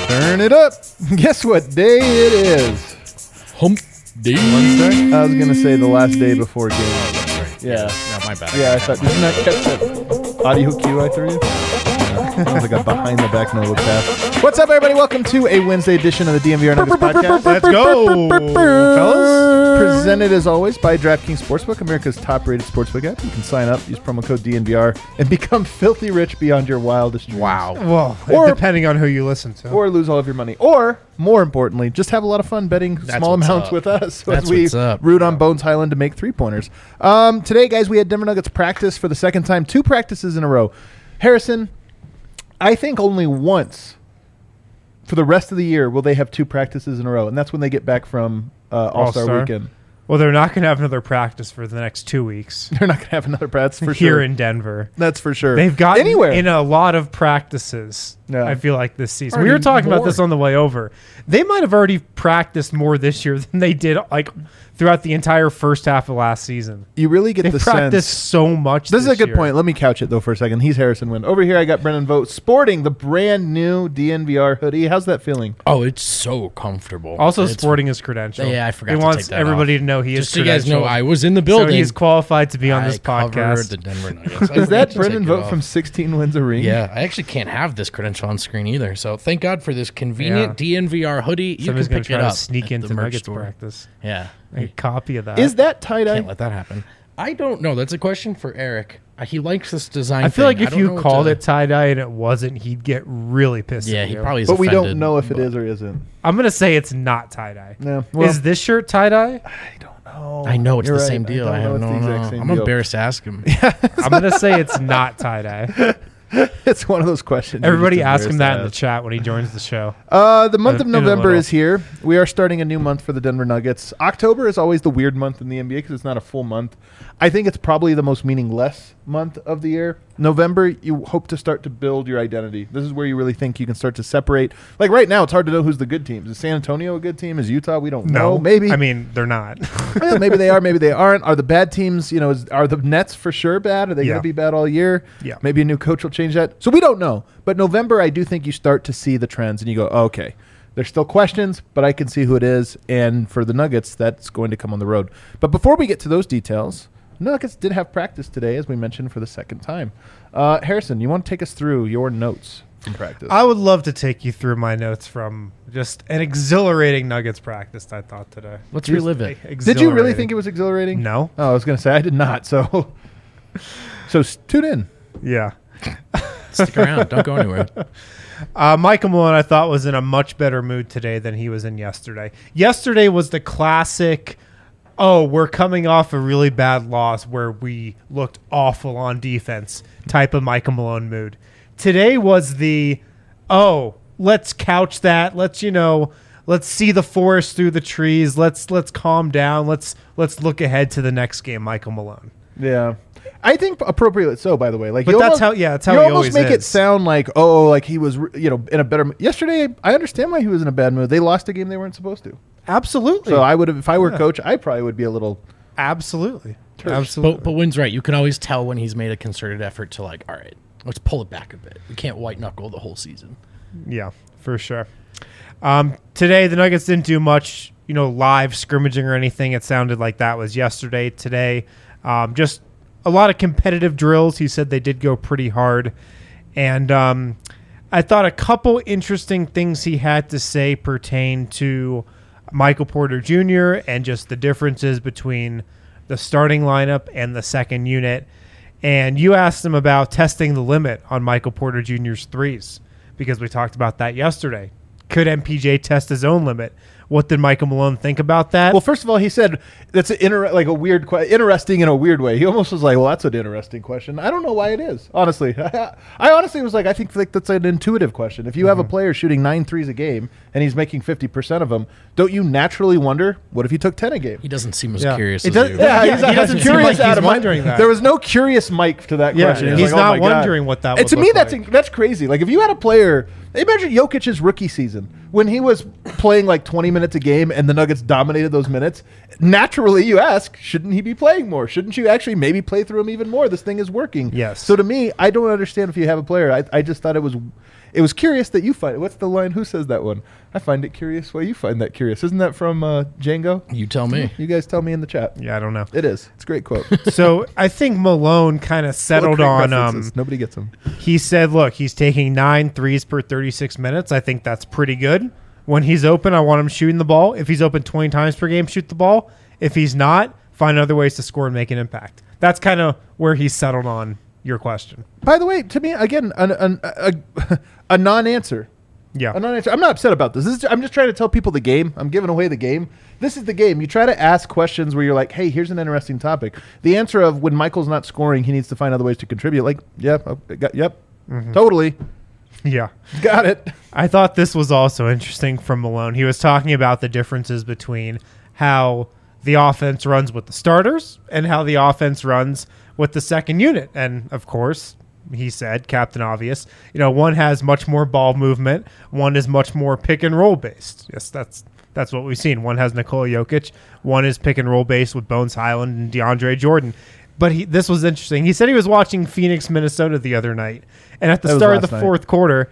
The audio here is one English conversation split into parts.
Turn it up. Guess what day it is? Hump day. Wednesday? I was going to say the last day before game. Oh, that's right. Yeah. No, my bad. Yeah, I thought, didn't that catch that audio cue I threw you? Sounds like a behind the back no look pass. What's up, everybody? Welcome to a Wednesday edition of the DMVR Nuggets podcast. Let's go, fellas. Presented as always by DraftKings Sportsbook, America's top-rated sportsbook app. You can sign up, use promo code DNVR, and become filthy rich beyond your wildest dreams. Wow. Well, Or- depending on who you listen to. Or lose all of your money. Or, more importantly, just have a lot of fun betting That's small what's amounts up. with us That's as we what's up. root on Bones Highland to make three-pointers. Today, guys, we had Denver Nuggets practice for the second time. 2 practices in a row. Harrison, I think only once for the rest of the year will they have 2 practices in a row, and that's when they get back from All-Star All-Star. Weekend. Well, they're not going to have another practice for the next 2 weeks They're not going to have another practice for here sure. in Denver. That's for sure. They've got anywhere. in a lot of practices, Yeah. I feel like, this season. Already We were talking about more. this on the way over. They might have already practiced more this year than they did like throughout the entire first half of last season. You really get They the practiced sense. so much This is a good year. point. Let me couch it, though, for a second. He's Harrison Wind. Over here, I got Brennan Vogt sporting the brand new DNVR hoodie. How's that feeling? Oh, it's so comfortable. Also It's- sporting his credential. Yeah, I forgot He to wants take that everybody off. to know he Just is so you guys know, credentialed. I was in the So building. he's qualified to be on this I covered podcast. the Denver Nuggets. I Is that forgot to Brennan take it Vogt off. from 16 Wins a Ring? Yeah, I actually can't have this credential on screen either. So thank God for this convenient DNVR hoodie. You Somebody's can going pick to it try up to sneak at the into merch Nuggets store. practice. Yeah, A copy of that. Is that tie-dye? can't let that happen. I don't know. That's a question for Eric. He likes this design. I feel like thing. if I don't know you what called to- it tie-dye and it wasn't, he'd get really pissed yeah, at he you. probably is. But we offended, don't know if it but- is or isn't. I'm going to say it's not tie-dye. No. Well, Is this shirt tie-dye? I don't know. I know it's You're the right. same deal. I don't have know no. it's the exact same I'm deal. embarrassed to ask him. I'm going to say it's not tie-dye. It's one of those questions. you're Everybody just ask him embarrassed that in to the chat when he joins the show. The month of In a November little. is here. We are starting a new month for the Denver Nuggets. October is always the weird month in the NBA because it's not a full month. I think it's probably the most meaningless month of the year. November, you hope to start to build your identity. This is where you really think you can start to separate. Like right now, it's hard to know who's the good teams. Is San Antonio a good team? Is Utah? We don't know. Maybe. I mean, they're not. Well, maybe they are. Maybe they aren't. Are the bad teams, are the Nets for sure bad? Are they going Yeah. to be bad all year? Yeah. Maybe a new coach will change that. So we don't know. But November, I do think you start to see the trends and you go, oh, okay, there's still questions, but I can see who it is. And for the Nuggets, that's going to come on the road. But before we get to those details, Nuggets did have practice today, as we mentioned, for the second time. Harrison, you want to take us through your notes from practice? I would love to take you through my notes from just an exhilarating Nuggets practice I thought today. Let's relive it. Did you really think it was exhilarating? No. Oh, I was going to say I did not. So tune in. Yeah. Stick around. Don't go anywhere. Michael Malone, I thought, was in a much better mood today than he was in yesterday. Yesterday was the classic, we're coming off a really bad loss where we looked awful on defense type of Michael Malone mood. Today was the, let's couch that. Let's see the forest through the trees. Let's calm down. Let's look ahead to the next game, Michael Malone. Yeah. I think appropriately so, by the way. But that's how he you always almost make it is. sound like, like he was, in a better mood. Yesterday, I understand why he was in a bad mood. They lost a game they weren't supposed to. Absolutely. So I would have, if I were coach, I probably would be a little. Absolutely. Absolutely. But Wynn's right. You can always tell when he's made a concerted effort to all right, let's pull it back a bit. We can't white knuckle the whole season. Yeah, for sure. Today, the Nuggets didn't do much, live scrimmaging or anything. It sounded like that was yesterday. Today, just a lot of competitive drills. He said they did go pretty hard. And I thought a couple interesting things he had to say pertain to Michael Porter Jr. and just the differences between the starting lineup and the second unit. And you asked him about testing the limit on Michael Porter Jr.'s threes because we talked about that yesterday. Could MPJ test his own limit? What did Michael Malone think about that? Well, first of all, he said that's like a weird, interesting in a weird way. He almost was like, well, that's an interesting question. I don't know why it is, honestly. I honestly was like, I think that's an intuitive question. If you have a player shooting 9 threes a game and he's making 50% of them, don't you naturally wonder, what if he took 10 a game? He doesn't seem as Yeah. curious It as does- you. Yeah, Yeah, he's he doesn't seem curious like he's Adam. wondering that. There was no curious Mike to that Yeah, question. he's Like, not oh my God. wondering what that And would to me, look that's like. that's crazy. Like if you had a player, imagine Jokic's rookie season when he was playing like 20 minutes a game and the Nuggets dominated those minutes. Naturally, you ask, shouldn't he be playing more? Shouldn't you actually maybe play through him even more? This thing is working. Yes. So to me, I don't understand if you have a player. I just thought it It was curious that you find it. What's the line? Who says that one? I find it curious why you find that curious. Isn't that from Django? You tell me. You guys tell me in the chat. Yeah, I don't know. It is. It's a great quote. So I think Malone kind of settled on. Nobody gets them. He said, "Look, he's taking 9 threes per 36 minutes. I think that's pretty good. When he's open, I want him shooting the ball. If he's open 20 times per game, shoot the ball. If he's not, find other ways to score and make an impact." That's kind of where he's settled on your question. By the way, to me, again, a non-answer. Yeah. A non-answer. I'm not upset about this. I'm just trying to tell people the game. I'm giving away the game. This is the game. You try to ask questions where you're like, hey, here's an interesting topic. The answer of when Michael's not scoring, he needs to find other ways to contribute. Like, yep, totally. Yeah. Got it. I thought this was also interesting from Malone. He was talking about the differences between how the offense runs with the starters and how the offense runs with the second unit. And, of course, he said, Captain Obvious, one has much more ball movement. One is much more pick and roll based. Yes, that's what we've seen. One has Nikola Jokic. One is pick and roll based with Bones Highland and DeAndre Jordan. But this was interesting. He said he was watching Phoenix, Minnesota the other night. And at the start of the fourth quarter,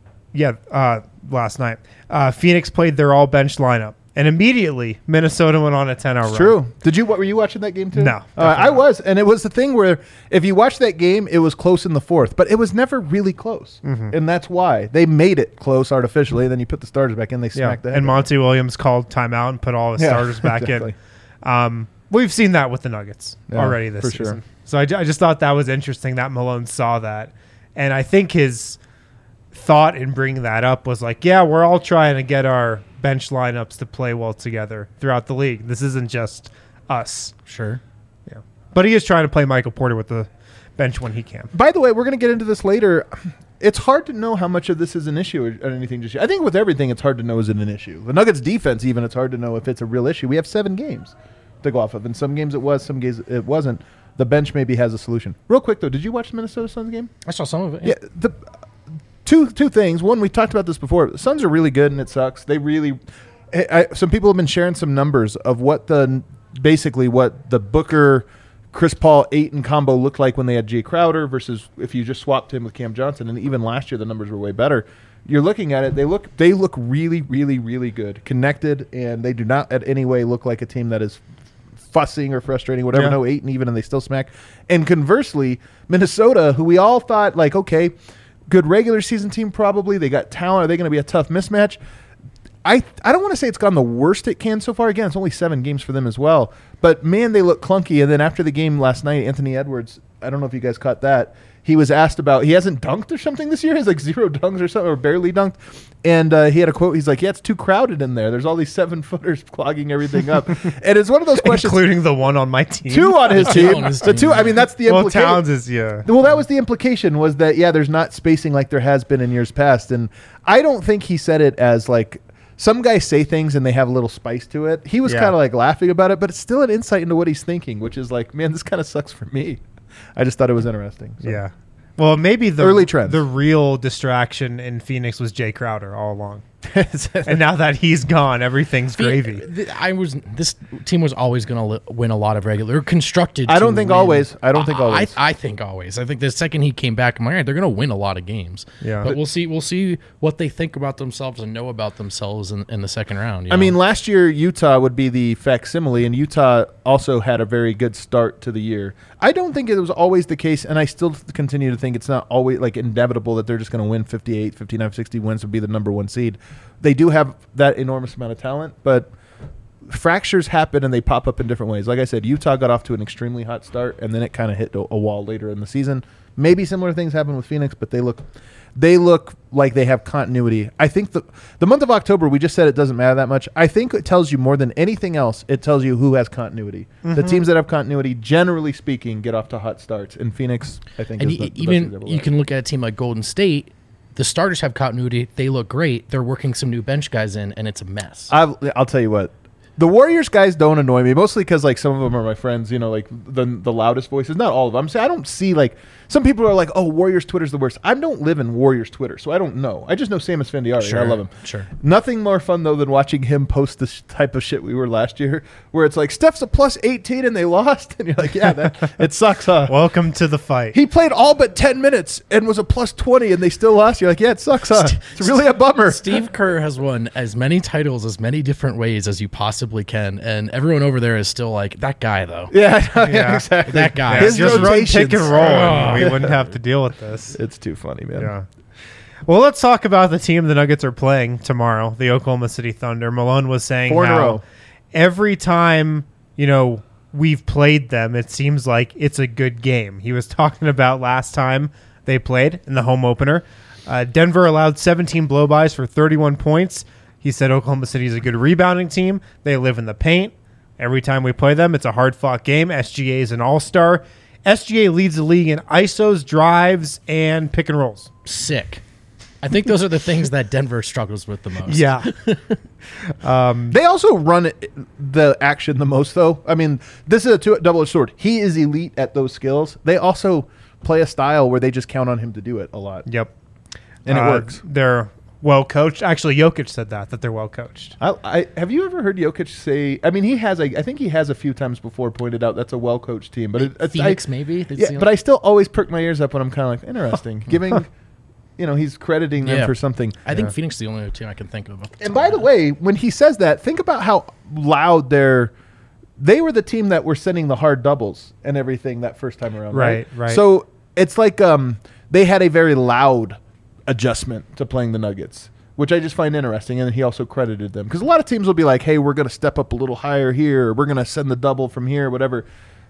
last night, Phoenix played their all-bench lineup. And immediately, Minnesota went on a 10-hour run. True. Were you watching that game too? No. I was. And it was the thing where if you watch that game, it was close in the fourth. But it was never really close. Mm-hmm. And that's why. They made it close artificially. Then you put the starters back in, they smacked the head. And Monty Williams called timeout and put all the starters back in. We've seen that with the Nuggets already this season. Sure. So I just thought that was interesting that Malone saw that. And I think his thought in bringing that up was like, yeah, we're all trying to get our bench lineups to play well together throughout the league. This isn't just us. Sure. Yeah. But he is trying to play Michael Porter with the bench when he can. By the way, we're going to get into this later. It's hard to know how much of this is an issue or anything just yet. I think with everything, it's hard to know is it an issue. The Nuggets defense, even, it's hard to know if it's a real issue. We have 7 games to go off of. In some games it was, some games it wasn't. The bench maybe has a solution. Real quick, though, did you watch the Minnesota Suns game? I saw some of it. Yeah. Two things. One, we talked about this before. The Suns are really good, and it sucks. They really some people have been sharing some numbers of what the Booker, Chris Paul, Ayton combo looked like when they had Jay Crowder versus if you just swapped him with Cam Johnson. And even last year, the numbers were way better. You're looking at it. They look really, really, really good, connected, and they do not at any way look like a team that is fussing or frustrating, whatever. No, Ayton even, and they still smack. And conversely, Minnesota, who we all thought like, okay, good regular season team probably. They got talent. Are they going to be a tough mismatch? I don't want to say it's gone the worst it can so far. Again, it's only 7 games for them as well. But, man, they look clunky. And then after the game last night, Anthony Edwards, I don't know if you guys caught that, he was asked about – he hasn't dunked or something this year. He's like 0 dunks or something, or barely dunked. And he had a quote. He's like, yeah, it's too crowded in there. There's all these 7-footers clogging everything up. And it's one of those questions. Including the one on my team. 2 on his team. The 2, I mean, that's the implication. Well, Towns is, yeah. Well, that was the implication was that, yeah, there's not spacing like there has been in years past. And I don't think he said it as like – some guys say things and they have a little spice to it. He was kind of like laughing about it, but it's still an insight into what he's thinking, which is like, man, this kind of sucks for me. I just thought it was interesting. So. Yeah. Well, maybe the early trends. The real distraction in Phoenix was Jay Crowder all along. And now that he's gone, everything's gravy. This team was always going to win a lot of regular, constructed. I don't think always. I think always. I think always. I think the second he came back, I'm like, all right, they're going to win a lot of games. Yeah. But we'll see. We'll see what they think about themselves and know about themselves in the second round. I mean, last year Utah would be the facsimile, and Utah also had a very good start to the year. I don't think it was always the case, and I still continue to think it's not always like inevitable that they're just going to win 58, 59, 60 wins to be the number 1 seed. They do have that enormous amount of talent, but fractures happen and they pop up in different ways. Like I said, Utah got off to an extremely hot start, and then it kind of hit a wall later in the season. Maybe similar things happen with Phoenix, but they look like they have continuity. I think the month of October, we just said it doesn't matter that much. I think it tells you more than anything else, it tells you who has continuity. Mm-hmm. The teams that have continuity, generally speaking, get off to hot starts. And Phoenix, I think, is the even you can look at a team like Golden State. The starters have continuity. They look great. They're working some new bench guys in, and it's a mess. I'll tell you what. The Warriors guys don't annoy me, mostly because like some of them are my friends. You know, like the loudest voices. Not all of them. I don't see like some people are like, oh, Warriors Twitter's the worst. I don't live in Warriors Twitter, so I don't know. I just know Samus Fandiari. Sure, I love him. sure. Nothing more fun though than watching him post this type of shit we were last year, where it's like Steph's a plus 18 and they lost, and you're like, yeah, that it sucks, huh? Welcome to the fight. He played all but 10 minutes and was a plus 20 and they still lost. You're like, yeah, it sucks, huh? It's really a bummer. Steve Kerr has won as many titles as many different ways as you possibly can, and everyone over there is still like, that guy though. Yeah, Yeah. exactly. That guy. His Just run rotations. pick and roll, and we Oh. wouldn't have to deal with this. It's too funny, man. Yeah. Well, let's talk about the team the Nuggets are playing tomorrow, the Oklahoma City Thunder. Malone was saying 4 in a how row. every time, we've played them, it seems like it's a good game. He was talking about last time they played in the home opener. Denver allowed 17 blow-bys for 31 points. He said Oklahoma City is a good rebounding team. They live in the paint. Every time we play them, it's a hard-fought game. SGA is an all-star. SGA leads the league in ISOs, drives, and pick and rolls. Sick. I think those are the things that Denver struggles with the most. Yeah. They also run the action the most, though. I mean, this is a double-edged sword. He is elite at those skills. They also play a style where they just count on him to do it a lot. Yep. And it works. They're well coached. Actually, Jokic said that they're well coached. I have you ever heard Jokic say? I mean, I think he has a few times before pointed out that's a well-coached team, but Phoenix maybe. Yeah, but I still always perk my ears up when I'm kind of like interesting, giving, he's crediting them Yeah. for something. I think Phoenix is the only team I can think of. And by the way, when he says that, think about how loud they were the team that were sending the hard doubles and everything that first time around, right? Right. So it's like they had a very loud adjustment to playing the Nuggets, which I just find interesting. And he also credited them because a lot of teams will be like, hey, we're going to step up a little higher here. Or we're going to send the double from here, whatever.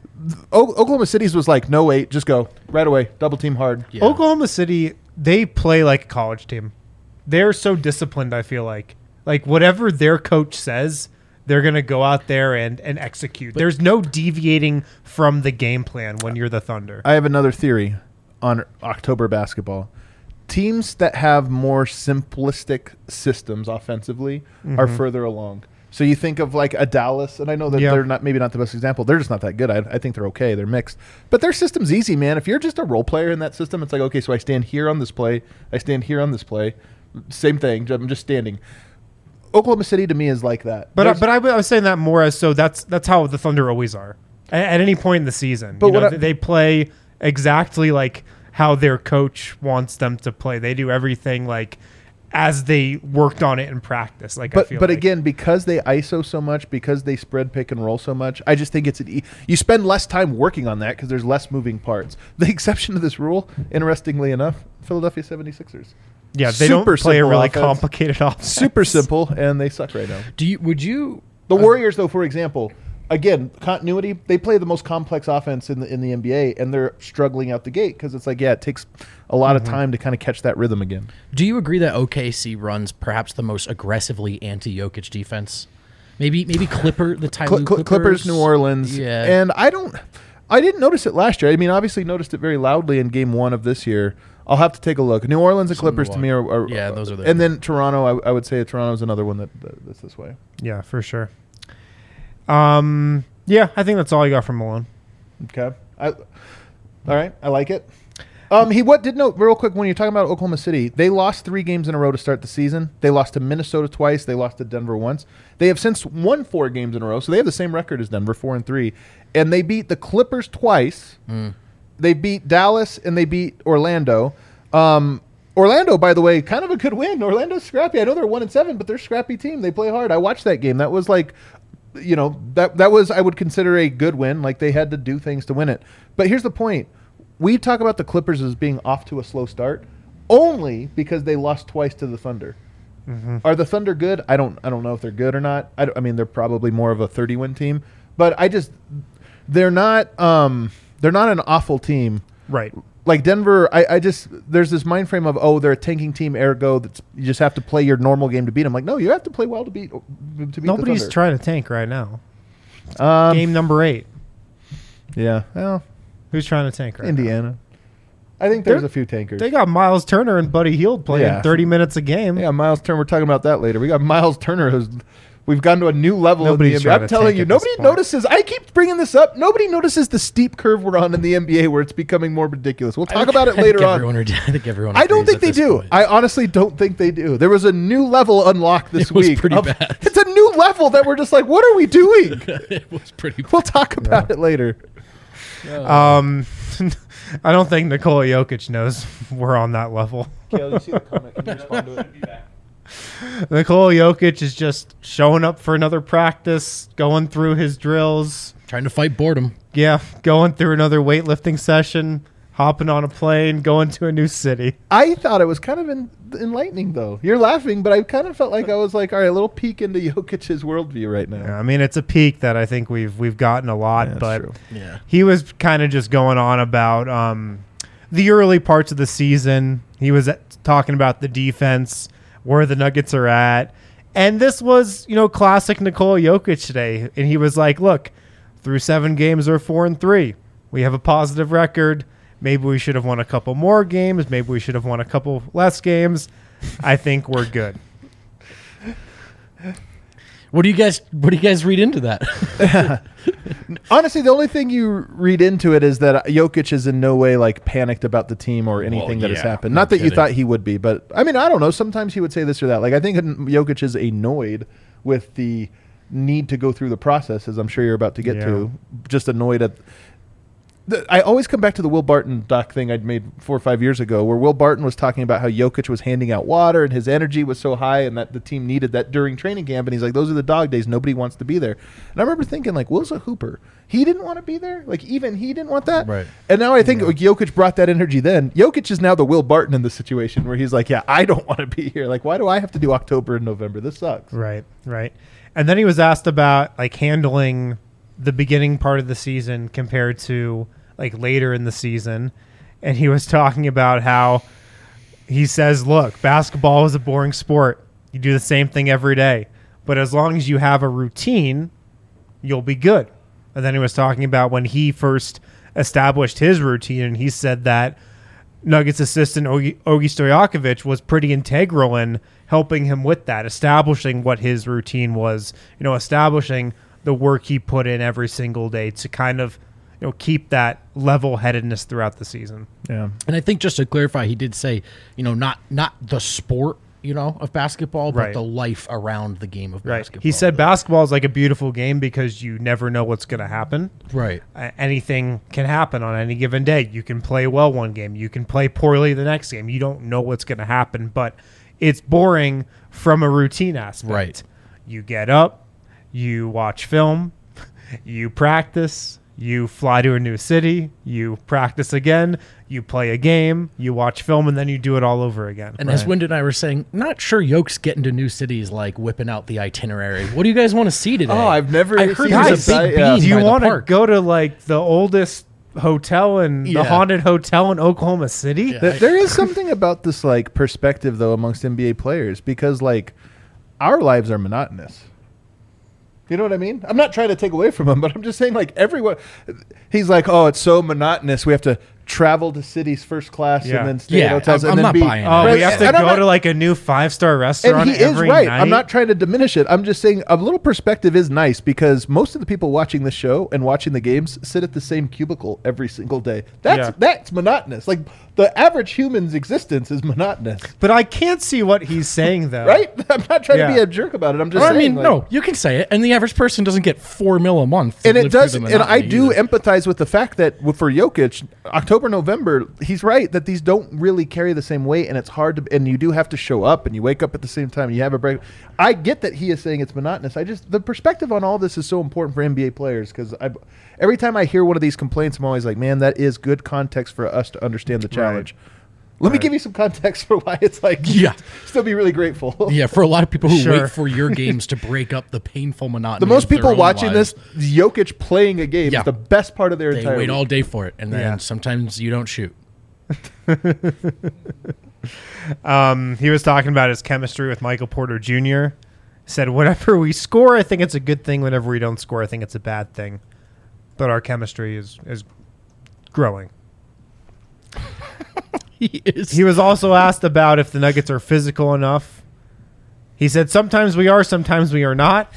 Oklahoma City's was like, no, wait, just go right away. Double team hard. Yeah. Oklahoma City, they play like a college team. They're so disciplined, I feel like. Like, whatever their coach says, they're going to go out there and execute. There's no deviating from the game plan when you're the Thunder. I have another theory on October basketball. Teams that have more simplistic systems offensively are further along. So you think of like a Dallas, and I know that they're maybe not the best example. They're just not that good. I think they're okay. They're mixed. But their system's easy, man. If you're just a role player in that system, it's like, okay, so I stand here on this play. I stand here on this play. Same thing. I'm just standing. Oklahoma City to me is like that. But I was saying that more as so that's how the Thunder always are at any point in the season. But They play exactly like how their coach wants them to play. They do everything like as they worked on it in practice. Like, But again, because they ISO so much, because they spread pick and roll so much, I just think it's you spend less time working on that because there's less moving parts. The exception to this rule, interestingly enough, Philadelphia 76ers. yeah, they don't super play a simple really offense. complicated offense. Super simple, and they suck right now. Would you? The Warriors, though, for example, again, continuity, they play the most complex offense in the NBA, and they're struggling out the gate because it's like, yeah, it takes a lot of time to kind of catch that rhythm again. Do you agree that OKC runs perhaps the most aggressively anti-Jokic defense? Maybe the Tyloo Clippers, New Orleans. Yeah. And I didn't notice it last year. I mean, obviously noticed it very loudly in game 1 of this year. I'll have to take a look. New Orleans and Clippers to me are Yeah, those are the- and then Toronto, I would say Toronto's another one that's this way. Yeah, for sure. Yeah, I think that's all I got from Malone. Okay. All right. I like it. He did note real quick when you're talking about Oklahoma City, they lost 3 games in a row to start the season. They lost to Minnesota twice. They lost to Denver once. They have since won 4 games in a row, so they have the same record as Denver, 4-3. And they beat the Clippers twice. They beat Dallas and they beat Orlando. Orlando, by the way, kind of a good win. Orlando's scrappy. I know they're 1-7, but they're a scrappy team. They play hard. I watched that game. That was like, that was, I would consider a good win. Like they had to do things to win it. But here's the point. We talk about the Clippers as being off to a slow start only because they lost twice to the Thunder. Are the Thunder good? I don't know if they're good or not. I mean, they're probably more of a 30-win team, but they're not an awful team. Right. Like Denver, there's this mind frame of, they're a tanking team, ergo you just have to play your normal game to beat them. Like, no, you have to play well to beat Nobody's the Thunder. trying to tank right now. Um, Game number 8. Yeah, well, Who's trying to tank right now? Indiana. I think there's a few tankers. They got Miles Turner and Buddy Hield playing 30 minutes a game. Yeah, Miles Turner. We're talking about that later. We got Miles Turner who's We've gone to a new level Nobody's in the trying NBA. I'm to telling tank you, at this nobody point. notices. I keep bringing this up. Nobody notices the steep curve we're on in the NBA where it's becoming more ridiculous. We'll talk about it later on. I think everyone. I don't agrees think they at this do. point. I honestly don't think they do. There was a new level unlocked this It was week. pretty bad. It's a new level that we're just like, what are we doing? It was pretty. We'll talk about it later. I don't think Nikola Jokic knows we're on that level. Kale, you see the comment? Can you respond to it? Nikola Jokic is just showing up for another practice, going through his drills. Trying to fight boredom. Yeah, going through another weightlifting session, hopping on a plane, going to a new city. I thought it was kind of enlightening, though. You're laughing, but I kind of felt like I was like, all right, a little peek into Jokic's worldview right now. Yeah, I mean, it's a peak that I think we've gotten a lot, Yeah, that's but true. Yeah. he was kind of just going on about the early parts of the season. He was talking about the defense, where the Nuggets are at. And this was, classic Nikola Jokic today. And he was like, look, through 7 games, we're 4-3. We have a positive record. Maybe we should have won a couple more games. Maybe we should have won a couple less games. I think we're good. What do you guys read into that? Honestly, the only thing you read into it is that Jokic is in no way like panicked about the team or anything that has yeah, happened. no Not that you kidding. thought he would be, but I mean, I don't know. Sometimes he would say this or that. Like I think Jokic is annoyed with the need to go through the process, as I'm sure you're about to get to. Just annoyed at. I always come back to the Will Barton doc thing I'd made 4 or 5 years ago, where Will Barton was talking about how Jokic was handing out water and his energy was so high, and that the team needed that during training camp. And he's like, "Those are the dog days. Nobody wants to be there." And I remember thinking, like, Will's a hooper. He didn't want to be there. Like even he didn't want that. Right. And now I think like, Jokic brought that energy. Then Jokic is now the Will Barton in the situation where he's like, "Yeah, I don't want to be here. Like, why do I have to do October and November? This sucks." Right. And then he was asked about like handling the beginning part of the season compared to like later in the season. And he was talking about how he says, look, basketball is a boring sport. You do the same thing every day. But as long as you have a routine, you'll be good. And then he was talking about when he first established his routine, and he said that Nuggets assistant Ogi Stojakovic was pretty integral in helping him with that, establishing what his routine was, establishing the work he put in every single day to kind of keep that level-headedness throughout the season. Yeah. And I think just to clarify, he did say, not the sport, of basketball, but Right. the life around the game of Right. basketball. He said basketball is like a beautiful game because you never know what's going to happen. Right. Anything can happen on any given day. You can play well one game. You can play poorly the next game. You don't know what's going to happen, but it's boring from a routine aspect. Right. You get up, you watch film, you practice, you fly to a new city, you practice again, you play a game, you watch film, and then you do it all over again. And as Wyndon and I were saying, not sure Yoke's getting to new cities like whipping out the itinerary. What do you guys want to see today? Oh, I've never I heard seen there's this. a big Yeah. bean Do you by the want to park. go to like the oldest hotel and the Yeah. haunted hotel in Oklahoma City? Yeah. There is something about this like perspective though amongst NBA players because like our lives are monotonous. You know what I mean? I'm not trying to take away from him, but I'm just saying like everyone. He's like, oh, it's so monotonous. We have to travel to cities first class Yeah. and then stay Yeah, at hotels I'm and then not be. buying it. Oh, Right, we have to and I'm go not- to like a new 5-star And restaurant he is every right. night. I'm not trying to diminish it. I'm just saying a little perspective is nice because most of the people watching the show and watching the games sit at the same cubicle every single day. That's monotonous. Like the average human's existence is monotonous, But I can't see what he's saying though. right? I'm not trying to be Yeah. a jerk about it. I'm just Or, I saying. mean, like, no, you can say it, and the average person doesn't get $4 million a month. to And it live through does, the and monotony I do either. empathize with the fact that for Jokic, October, November, he's right that these don't really carry the same weight, and it's hard to, and you do have to show up, and you wake up at the same time, and you have a break. I get that he is saying it's monotonous. The perspective on all this is so important for NBA players because every time I hear one of these complaints, I'm always like, man, that is good context for us to understand the challenge. Let me give you some context for why it's like, Yeah. still be really grateful. Yeah, for a lot of people who Sure. wait for your games to break up the painful monotony. The most of their people own watching lives, this, Jokic playing a game Yeah. is the best part of their they entire wait week. all day for it, and then Yeah. sometimes you don't shoot. He was talking about his chemistry with Michael Porter Jr. Said, whenever we score, I think it's a good thing. Whenever we don't score, I think it's a bad thing. But our chemistry is growing. He is. He was also asked about if the Nuggets are physical enough. He said, sometimes we are, sometimes we are not.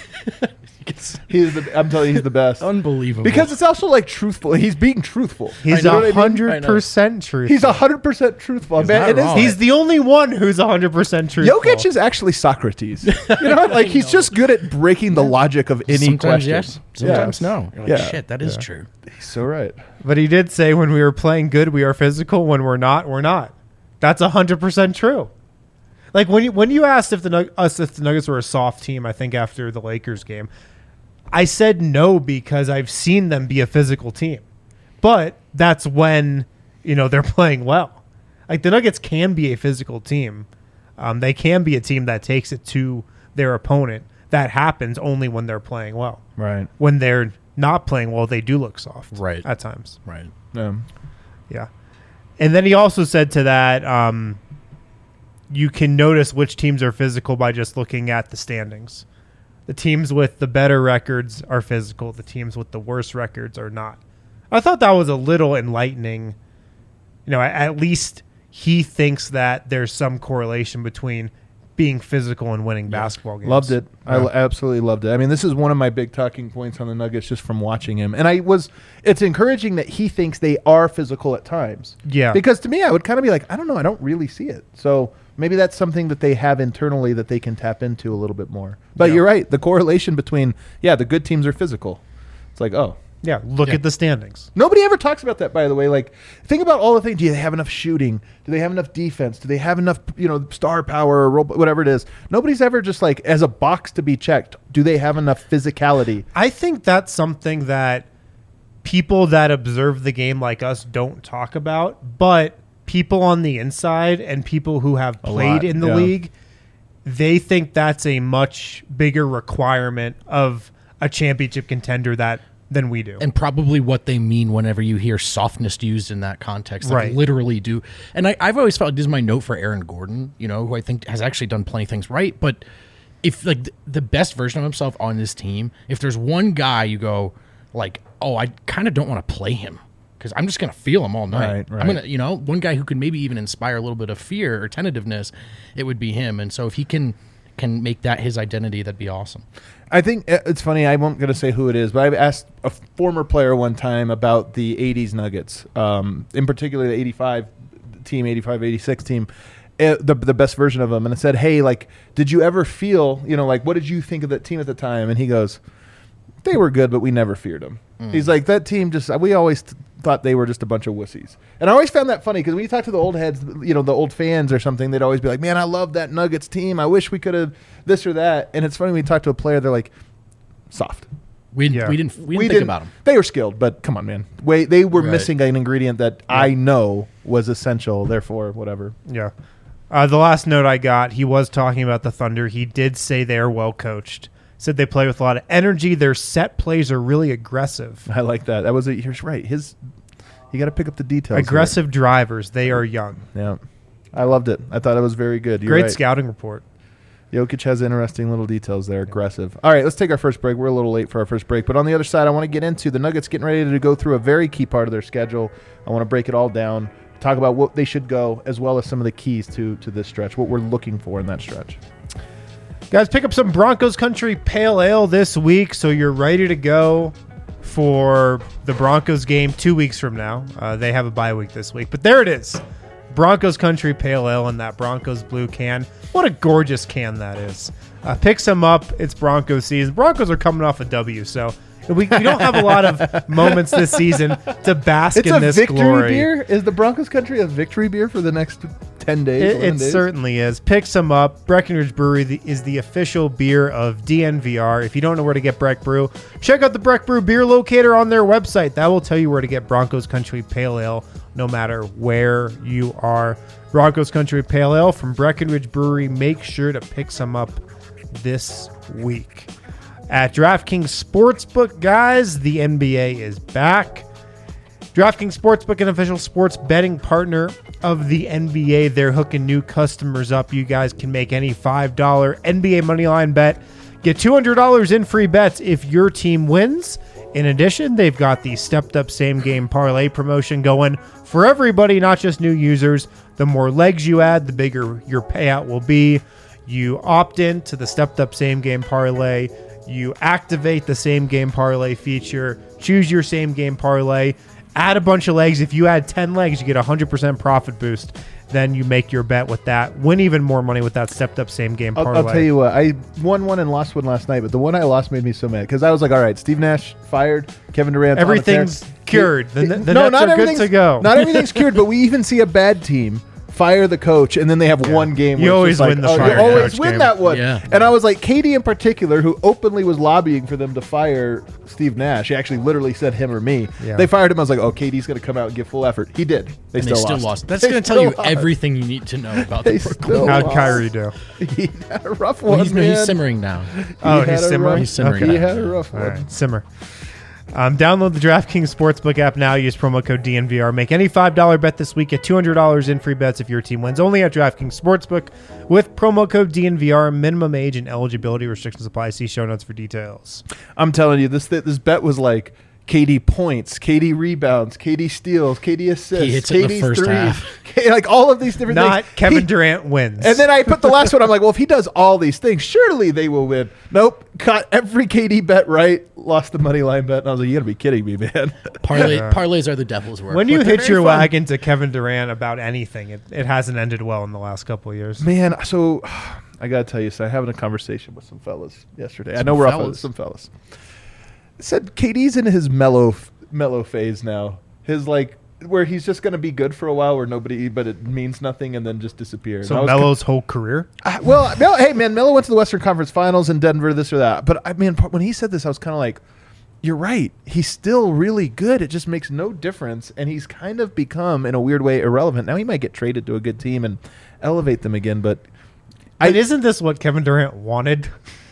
I'm telling you, he's the best. Unbelievable. Because it's also like truthful. He's being truthful. He's You know what I mean? 100% truthful. He's 100% truthful. He's Man, not it is- wrong. He's the only one who's 100% truthful. Jokic is actually Socrates. You know, like he's just good at breaking the logic of any sometimes question. yes, sometimes Yeah. no. You're like, Yeah. shit, that is true. He's so right. But he did say when we were playing good, we are physical. When we're not, we're not. That's 100% true. Like when you asked if the Nuggets were a soft team, I think after the Lakers game, I said no because I've seen them be a physical team. But that's when, they're playing well. Like the Nuggets can be a physical team. They can be a team that takes it to their opponent. That happens only when they're playing well. Right. When they're not playing well, they do look soft. Right. At times. Right. Yeah. And then he also said to that, you can notice which teams are physical by just looking at the standings. The teams with the better records are physical. The teams with the worst records are not. I thought that was a little enlightening. At least he thinks that there's some correlation between being physical and winning basketball games. Loved it. Yeah. I absolutely loved it. I mean, this is one of my big talking points on the Nuggets just from watching him. And it's encouraging that he thinks they are physical at times. Yeah. Because to me, I would kind of be like, I don't know. I don't really see it. So maybe that's something that they have internally that they can tap into a little bit more. But Yeah. you're right. The correlation between, the good teams are physical. It's like, oh. Yeah, look Yeah. at the standings. Nobody ever talks about that, by the way. Like, think about all the things. Do they have enough shooting? Do they have enough defense? Do they have enough, star power or whatever it is? Nobody's ever just like, as a box to be checked, do they have enough physicality? I think that's something that people that observe the game like us don't talk about, but people on the inside and people who have played lot, in the yeah. league, they think that's a much bigger requirement of a championship contender than we do. And probably what they mean whenever you hear softness used in that context. Like Right. literally do. And I've always felt, this is my note for Aaron Gordon, who I think has actually done plenty of things right. But if like the best version of himself on this team, if there's one guy you go like, oh, I kind of don't want to play him because I'm just going to feel him all night. Right. I'm going to, one guy who could maybe even inspire a little bit of fear or tentativeness, it would be him. And so if he can make that his identity, that'd be awesome. I think it's funny. I won't going to say who it is, but I've asked a former player one time about the 80s Nuggets, in particular the 85 team, 85-86 team, the best version of them. And I said, hey, like, did you ever feel, what did you think of that team at the time? And he goes, they were good, but we never feared them. He's like, that team we always thought they were just a bunch of wussies. And I always found that funny because when you talk to the old heads, the old fans or something, they'd always be like, man, I love that Nuggets team. I wish we could have this or that. And it's funny when you talk to a player, they're like, soft. We didn't think about him. They were skilled, but come on, man. They were Right. missing an ingredient that I know was essential, therefore, whatever. Yeah. The last note I got, he was talking about the Thunder. He did say they are well coached. Said they play with a lot of energy. Their set plays are really aggressive. I like that. That was you're right. You got to pick up the details. Aggressive drivers. They are young. Yeah. I loved it. I thought it was very good. You're Great right. scouting report. Jokic has interesting little details there. Aggressive. All right, let's take our first break. We're a little late for our first break. But on the other side, I want to get into the Nuggets getting ready to go through a very key part of their schedule. I want to break it all down, talk about what they should go, as well as some of the keys to this stretch, what we're looking for in that stretch. Guys, pick up some Broncos Country Pale Ale this week so you're ready to go for the Broncos game 2 weeks from now. They have a bye week this week. But there it is. Broncos Country Pale Ale in that Broncos blue can. What a gorgeous can that is. Pick some up. It's Broncos season. Broncos are coming off a W, so we don't have a lot of moments this season to bask It's in a this victory glory. beer? Is the Broncos Country a victory beer for the next 10 days? 11 It days? certainly is. Pick some up. Breckenridge Brewery is the official beer of DNVR. If you don't know where to get Breck Brew, check out the Breck Brew beer locator on their website. That will tell you where to get Broncos Country Pale Ale no matter where you are. Broncos Country Pale Ale from Breckenridge Brewery. Make sure to pick some up this week. At DraftKings Sportsbook, guys, the NBA is back. DraftKings Sportsbook, an official sports betting partner of the NBA. They're hooking new customers up. You guys can make any $5 NBA moneyline bet. Get $200 in free bets if your team wins. In addition, they've got the stepped-up same-game parlay promotion going for everybody, not just new users. The more legs you add, the bigger your payout will be. You opt in to the stepped up same game parlay. You activate the same game parlay feature, choose your same game parlay, add a bunch of legs. If you add 10 legs, you get a 100% profit boost. Then you make your bet with that. Win even more money with that stepped up same game parlay. I'll tell you what, I won one and lost one last night, but the one I lost made me so mad because I was like, all right, Steve Nash fired, Kevin Durant. Everything's cured. The no, Nets not are good everything's to go. Not everything's cured, but we even see a bad team fire the coach, and then they have one game. You where always it's just win the like, fire you always coach win game. that one. Yeah. And I was like, Katie in particular, who openly was lobbying for them to fire Steve Nash. He actually literally said him or me. Yeah. They fired him. I was like, oh, Katie's going to come out and give full effort. He did. They And still they still lost. lost. That's They going to tell you still lost. everything you need to know about They the Brooklyn. still How'd lost. Kyrie do? He had a rough Well, one, he's man. simmering now. Oh, He he's had a simmering? rough- He's simmering He now. had a rough All one. right, simmer. Download the DraftKings Sportsbook app now. Use promo code DNVR. Make any $5 bet this week. Get $200 in free bets if your team wins. Only at DraftKings Sportsbook with promo code DNVR. Minimum age and eligibility restrictions apply. See show notes for details. I'm telling you, this bet was like KD points, KD rebounds, KD steals, KD assists, He hits it in the KD first threes, half. like all of these different Not things. Kevin He- Durant wins. And then I put the last one. I'm like, well, if he does all these things, surely they will win. Nope, caught every KD bet right, lost the money line bet. And I was like, you got to be kidding me, man. Parlays are the devil's work. when you but they're hitch your very fun. wagon to Kevin Durant about anything, it hasn't ended well in the last couple of years. Man, so I got to tell you, so I having a conversation with some fellas yesterday. I know we're off of fellas? some fellas. Said KD's in his mellow phase now. His like where he's just going to be good for a while, where nobody, but it means nothing, and then just disappear. And I So was Melo's whole career? well, hey man, Melo went to the Western Conference Finals in Denver, this or that. But I mean, when he said this, I was kind of like, "You're right. He's still really good. It just makes no difference." And he's kind of become, in a weird way, irrelevant. Now he might get traded to a good team and elevate them again. But And isn't this what Kevin Durant wanted?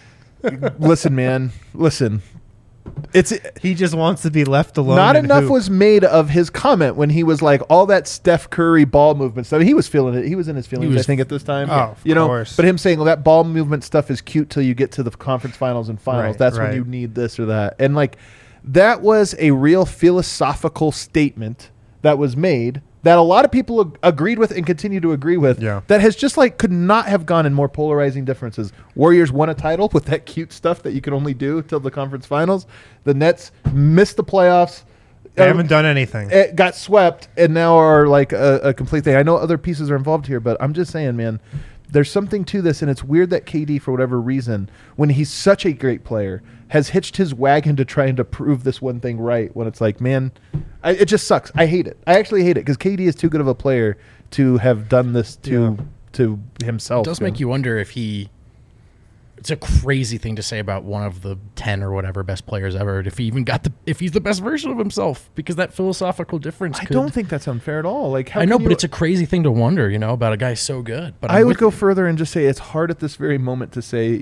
listen, man, listen. It's He just wants to be left alone. not and enough hoop. was made of his comment when he was like all that Steph Curry ball movement stuff. He was feeling it. He was in his feelings, was- I think, at this time. Oh, of you know, course. but him saying, "Well, that ball movement stuff is cute till you get to the conference finals and finals. Right, That's when right. you need this or that." And like that was a real philosophical statement that was made that a lot of people agreed with and continue to agree with. Yeah. That has just like could not have gone in more polarizing differences. Warriors won a title with that cute stuff that you can only do till the conference finals. The Nets missed the playoffs. They haven't done anything. It got swept and now are like a complete thing. I know other pieces are involved here, but I'm just saying, man, there's something to this, and it's weird that KD, for whatever reason, when he's such a great player, has hitched his wagon to trying to prove this one thing right. When it's like, man, it just sucks. I hate it. I actually hate it because KD is too good of a player to have done this to himself. It does man. make you wonder if it's a crazy thing to say about one of the 10 or whatever best players ever. If he even if he's the best version of himself, because that philosophical difference. I don't think that's unfair at all. Like, how I know, can but you- it's a crazy thing to wonder, about a guy so good. But I I'm would with go you. further and just say it's hard at this very moment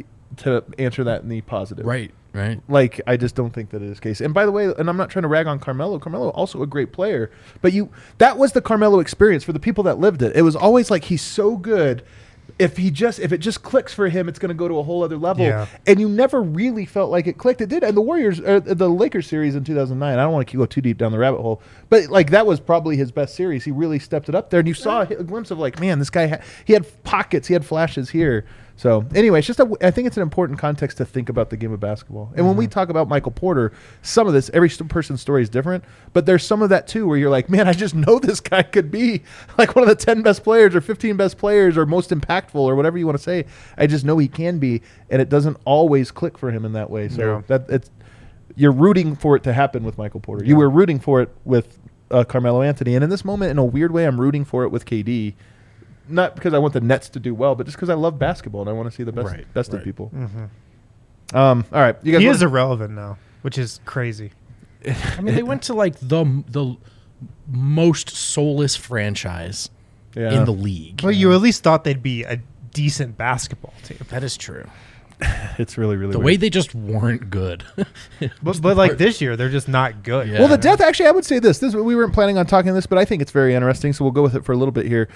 to answer that in the positive. Right. Like, I just don't think that is the case. And by the way, and I'm not trying to rag on Carmelo. Carmelo also a great player, but that was the Carmelo experience for the people that lived it. It was always like he's so good. If it just clicks for him, it's going to go to a whole other level. Yeah. And you never really felt like it clicked. It did. And the Lakers series in 2009, I don't want to go too deep down the rabbit hole, but like that was probably his best series. He really stepped it up there. And you saw a glimpse of like, man, this guy, he had pockets, he had flashes here. So anyway, it's just I think it's an important context to think about the game of basketball. And when we talk about Michael Porter, some of this, every person's story is different, but there's some of that too where you're like, man, I just know this guy could be like one of the 10 best players or 15 best players or most impactful or whatever you want to say. I just know he can be, and it doesn't always click for him in that way. So you're rooting for it to happen with Michael Porter. You were rooting for it with Carmelo Anthony, and in this moment, in a weird way, I'm rooting for it with KD. Not because I want the Nets to do well, but just because I love basketball and I want to see the best of people. All right, you guys. He is irrelevant now, which is crazy. I mean, they went to like the most soulless franchise in the league. Well, you at least thought they'd be a decent basketball team. That is true. It's really, really The weird. way they just weren't good. But like this year, they're just not good. Yeah. Well, the death. Actually, I would say this. We weren't planning on talking this, but I think it's very interesting. So we'll go with it for a little bit here.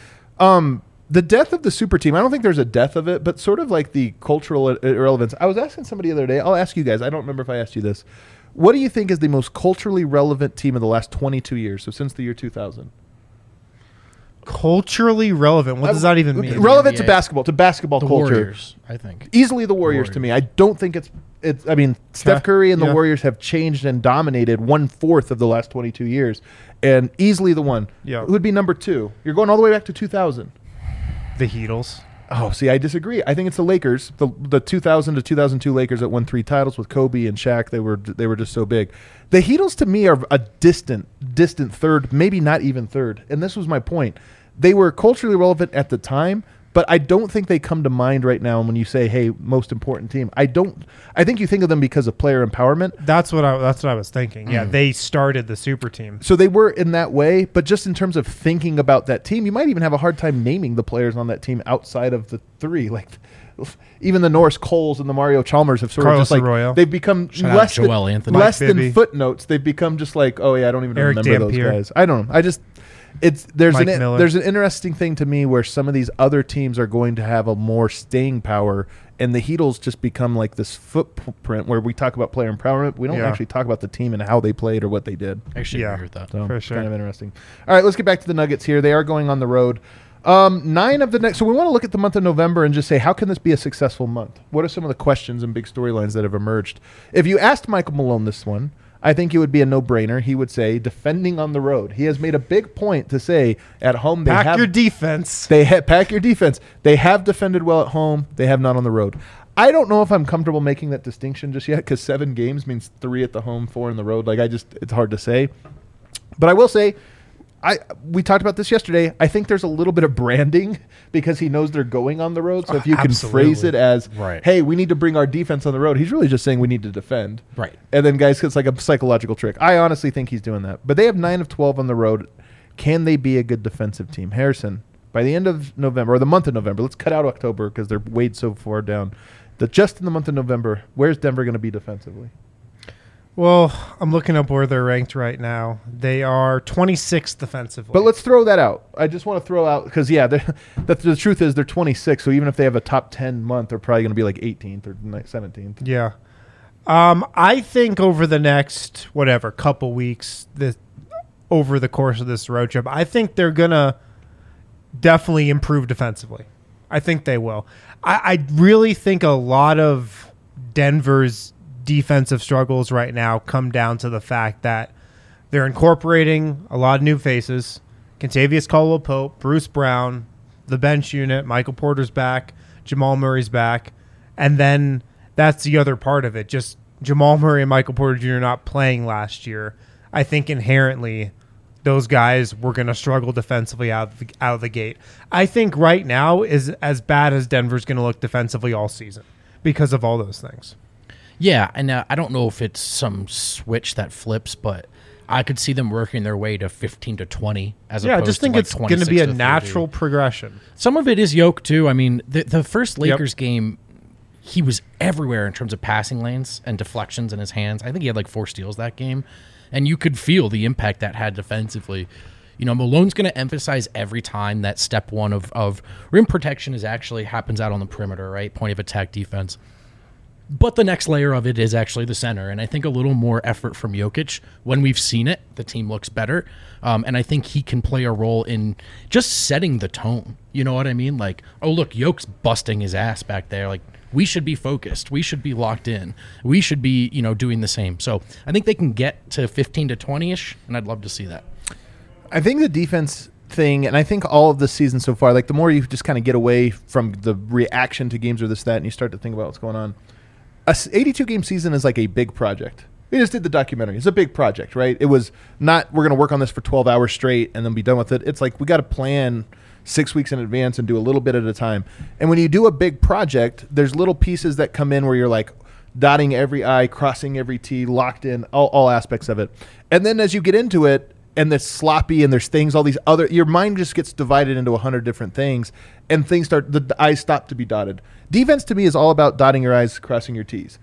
The death of the super team. I don't think there's a death of it, but sort of like the cultural irrelevance. I was asking somebody the other day. I'll ask you guys. I don't remember if I asked you this. What do you think is the most culturally relevant team of the last 22 years? So since the year 2000. Culturally relevant. What does that even mean? Relevant to NBA. basketball, The culture. Warriors, I think. Easily the Warriors to me. I don't think it's. I mean, Steph Curry and the Yeah. Warriors have changed and dominated 1/4 of the last 22 years, and easily the one. Yeah. Who would be number 2? You're going all the way back to 2000. The Heatles. Oh, see, I disagree. I think it's the Lakers, the 2000 to 2002 Lakers that won 3 titles with Kobe and Shaq. They were just so big. The Heatles to me are a distant third, maybe not even third. And this was my point. They were culturally relevant at the time, but I don't think they come to mind right now when you say, "Hey, most important team." I think you think of them because of player empowerment. That's what I was thinking. Yeah, they started the super team. So they were in that way, but just in terms of thinking about that team, you might even have a hard time naming the players on that team outside of the 3. Like even the Norris Coles and the Mario Chalmers have sort Carlos of just like Arroyo. they've become Shout out less Joel than, Anthony. less Mike than Bibby. footnotes. They've become just like, oh yeah, I don't even Eric remember those Dampier. guys. I don't know. There's Mike Miller. there's an interesting thing to me where some of these other teams are going to have a more staying power, and the Heatles just become like this footprint where we talk about player empowerment. We don't Yeah. actually talk about the team and how they played or what they did. I actually Yeah. agree with that. So For it's sure. kind of interesting. All right, let's get back to the Nuggets here. They are going on the road. 9 of the next. So we want to look at the month of November and just say, how can this be a successful month? What are some of the questions and big storylines that have emerged? If you asked Michael Malone this one, I think it would be a no-brainer. He would say defending on the road. He has made a big point to say at home they Pack have your defense. pack your defense. They have defended well at home. They have not on the road. I don't know if I'm comfortable making that distinction just yet because 7 games means 3 at the home, 4 in the road. It's hard to say. But I will say, we talked about this yesterday. I think there's a little bit of branding because he knows they're going on the road. So if you can phrase it as, Right. hey, we need to bring our defense on the road, he's really just saying we need to defend. Right. And then, guys, it's like a psychological trick. I honestly think he's doing that. But they have 9 of 12 on the road. Can they be a good defensive team? Harrison, by the end of November, or the month of November, let's cut out October because they're weighed so far down. Just in the month of November, where's Denver going to be defensively? Well, I'm looking up where they're ranked right now. They are 26th defensively. But let's throw that out. I just want to throw out because, the truth is they're 26. So even if they have a top 10 month, they're probably going to be like 18th or 17th. Yeah. I think over the next, couple weeks, over the course of this road trip, I think they're going to definitely improve defensively. I think they will. I really think a lot of Denver's defensive struggles right now come down to the fact that they're incorporating a lot of new faces. Kentavious Caldwell-Pope, Bruce Brown, the bench unit, Michael Porter's back, Jamal Murray's back, and then that's the other part of it. Just Jamal Murray and Michael Porter Jr. not playing last year. I think inherently those guys were going to struggle defensively out of the gate. I think right now is as bad as Denver's going to look defensively all season because of all those things. Yeah, and I don't know if it's some switch that flips, but I could see them working their way to 15 to 20 as opposed I just think to like it's going to be 26 a to 30. natural progression. Some of it is Yoke too. I mean, the first Lakers game, he was everywhere in terms of passing lanes and deflections in his hands. I think he had like 4 steals that game, and you could feel the impact that had defensively. You know, Malone's going to emphasize every time that step one of rim protection actually happens out on the perimeter, right? Point of attack defense. But the next layer of it is actually the center. And I think a little more effort from Jokic. When we've seen it, the team looks better. And I think he can play a role in just setting the tone. You know what I mean? Like, oh, look, Jokic's busting his ass back there. Like, we should be focused. We should be locked in. We should be, doing the same. So I think they can get to 15 to 20-ish, and I'd love to see that. I think the defense thing, and I think all of this season so far, like the more you just kind of get away from the reaction to games or this, that, and you start to think about what's going on, a 82-game season is like a big project. We just did the documentary. It's a big project, right? It was not, we're going to work on this for 12 hours straight and then be done with it. It's like we got to plan 6 weeks in advance and do a little bit at a time. And when you do a big project, there's little pieces that come in where you're like dotting every I, crossing every T, locked in, all aspects of it. And then as you get into it, and it's sloppy and there's things, all these other, your mind just gets divided into 100 different things and things start, the I's stop to be dotted. Defense to me is all about dotting your I's, crossing your T's.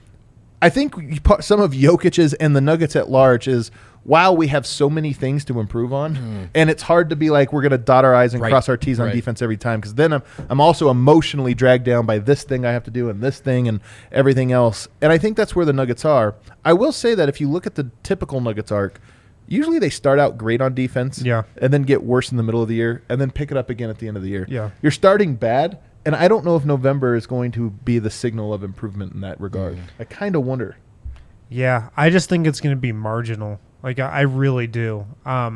I think some of Jokic's and the Nuggets at large is, wow, we have so many things to improve on. And it's hard to be like, we're going to dot our I's and cross our T's on defense every time. Because then I'm also emotionally dragged down by this thing I have to do and this thing and everything else. And I think that's where the Nuggets are. I will say that if you look at the typical Nuggets arc, usually they start out great on defense, Yeah. and then get worse in the middle of the year, and then pick it up again at the end of the year. Yeah. You're starting bad, and I don't know if November is going to be the signal of improvement in that regard. I kind of wonder. Yeah, I just think it's going to be marginal. Like, I really do.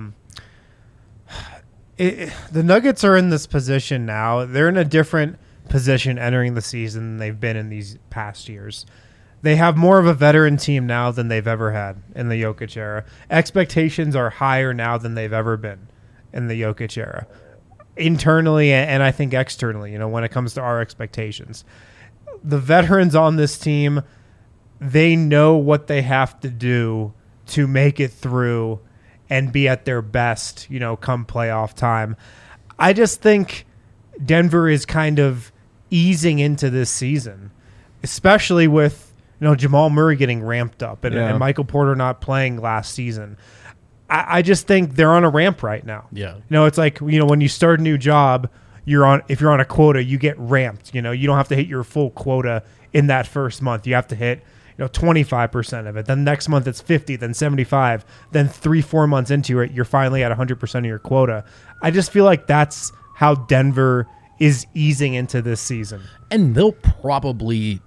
The Nuggets are in this position now. They're in a different position entering the season than they've been in these past years. They have more of a veteran team now than they've ever had in the Jokic era. Expectations are higher now than they've ever been in the Jokic era. Internally and I think externally, when it comes to our expectations. The veterans on this team, they know what they have to do to make it through and be at their best, come playoff time. I just think Denver is kind of easing into this season, especially with Jamal Murray getting ramped up and Michael Porter not playing last season. I just think they're on a ramp right now. Yeah. It's like, when you start a new job, if you're on a quota, you get ramped. You don't have to hit your full quota in that first month. You have to hit 25% of it. Then next month it's 50, then 75. Then 3-4 months into it, you're finally at 100% of your quota. I just feel like that's how Denver is easing into this season. And they'll probably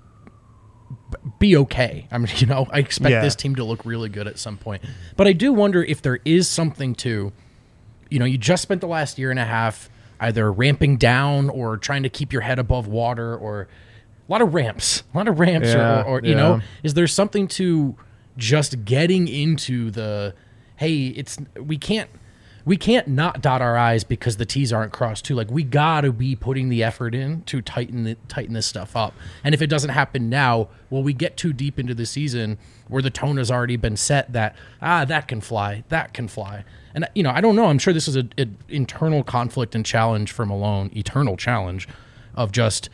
be okay. I mean, I expect this team to look really good at some point. But I do wonder if there is something to, you just spent the last year and a half either ramping down or trying to keep your head above water, or a lot of ramps, or is there something to just getting into the, hey, we can't not dot our I's because the T's aren't crossed too. Like, we gotta be putting the effort in to tighten this stuff up. And if it doesn't happen now, we get too deep into the season where the tone has already been set that that can fly. And I don't know. I'm sure this is an internal conflict and challenge for Malone, eternal challenge of just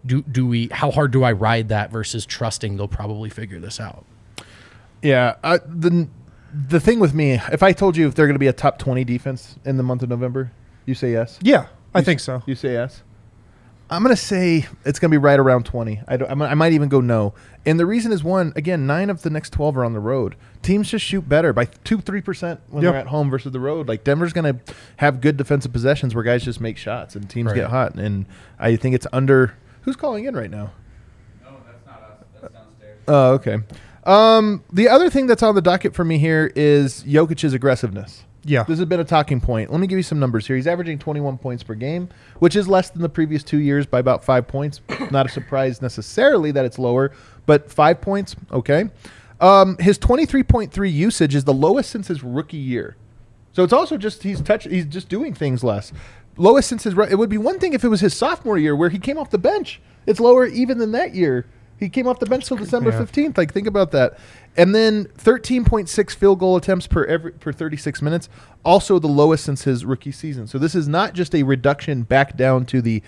how hard do I ride that versus trusting they'll probably figure this out. Yeah, the thing with me, if I told you if they're going to be a top 20 defense in the month of November, you say yes? Yeah, I think so. You say yes? I'm going to say it's going to be right around 20. I might even go no. And the reason is, 9 of the next 12 are on the road. Teams just shoot better by 2-3% when they're at home versus the road. Like, Denver's going to have good defensive possessions where guys just make shots and teams get hot. And I think it's under. Who's calling in right now? No, that's not us. That's downstairs. Oh, okay. The other thing that's on the docket for me here is Jokic's aggressiveness. Yeah. This has been a talking point. Let me give you some numbers here. He's averaging 21 points per game, which is less than the previous 2 years by about 5 points. Not a surprise necessarily that it's lower, but 5 points, okay. His 23.3 usage is the lowest since his rookie year. So it's also just he's just doing things less. Lowest since it would be one thing if it was his sophomore year where he came off the bench. It's lower even than that year. He came off the bench till December 15th. Like, think about that. And then 13.6 field goal attempts per 36 minutes, also the lowest since his rookie season. So this is not just a reduction back down to the,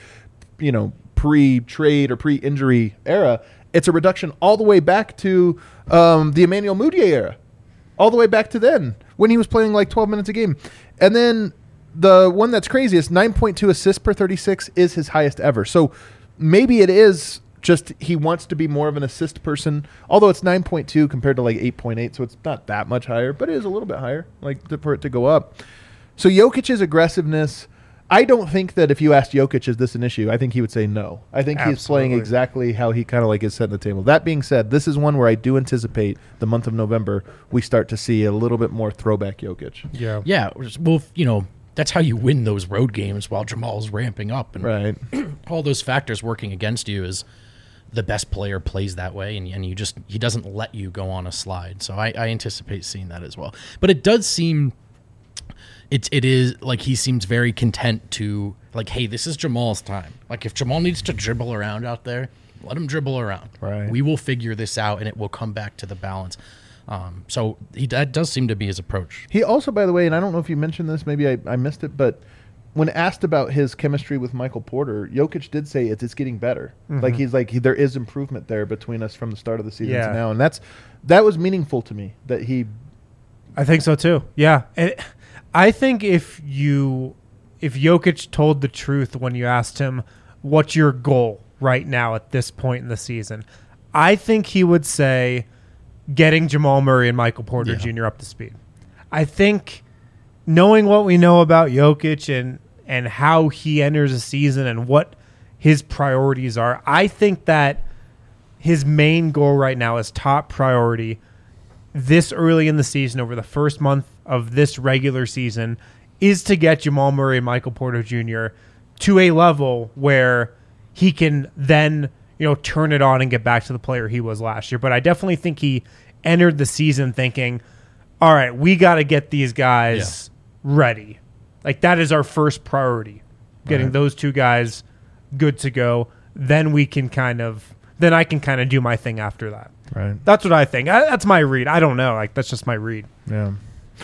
pre-trade or pre-injury era. It's a reduction all the way back to the Emmanuel Mudiay era, all the way back to then when he was playing like 12 minutes a game. And then the one that's craziest, 9.2 assists per 36 is his highest ever. So maybe it is just he wants to be more of an assist person, although it's 9.2 compared to like 8.8, so it's not that much higher, but it is a little bit higher, for it to go up. So Jokic's aggressiveness, I don't think that if you asked Jokic, is this an issue? I think he would say no. I think he's playing exactly how he kind of like is setting the table. That being said, this is one where I do anticipate the month of November we start to see a little bit more throwback Jokic. Yeah. Yeah. Well, that's how you win those road games while Jamal's ramping up. And Right. all those factors working against you is the best player plays that way, and he doesn't let you go on a slide. So I anticipate seeing that as well. But it does seem it is like he seems very content to, like, hey, this is Jamal's time. Like, if Jamal needs to dribble around out there, let him dribble around. Right. We will figure this out, and it will come back to the balance. So that does seem to be his approach. He also, by the way, and I don't know if you mentioned this, maybe I missed it, but when asked about his chemistry with Michael Porter, Jokic did say it's getting better. Mm-hmm. Like, he's like, there is improvement there between us from the start of the season to now. And that was meaningful to me that he. I think so too. Yeah. And I think if Jokic told the truth when you asked him, what's your goal right now at this point in the season, I think he would say getting Jamal Murray and Michael Porter Jr. up to speed. I think knowing what we know about Jokic and how he enters a season and what his priorities are, I think that his main goal right now is top priority this early in the season, over the first month of this regular season, is to get Jamal Murray and Michael Porter Jr. to a level where he can then, turn it on and get back to the player he was last year. But I definitely think he entered the season thinking, all right, we got to get these guys ready. Like, that is our first priority, getting those two guys good to go. Then I can kind of do my thing after that. Right. That's what I think. That's my read. I don't know. Like, that's just my read. Yeah.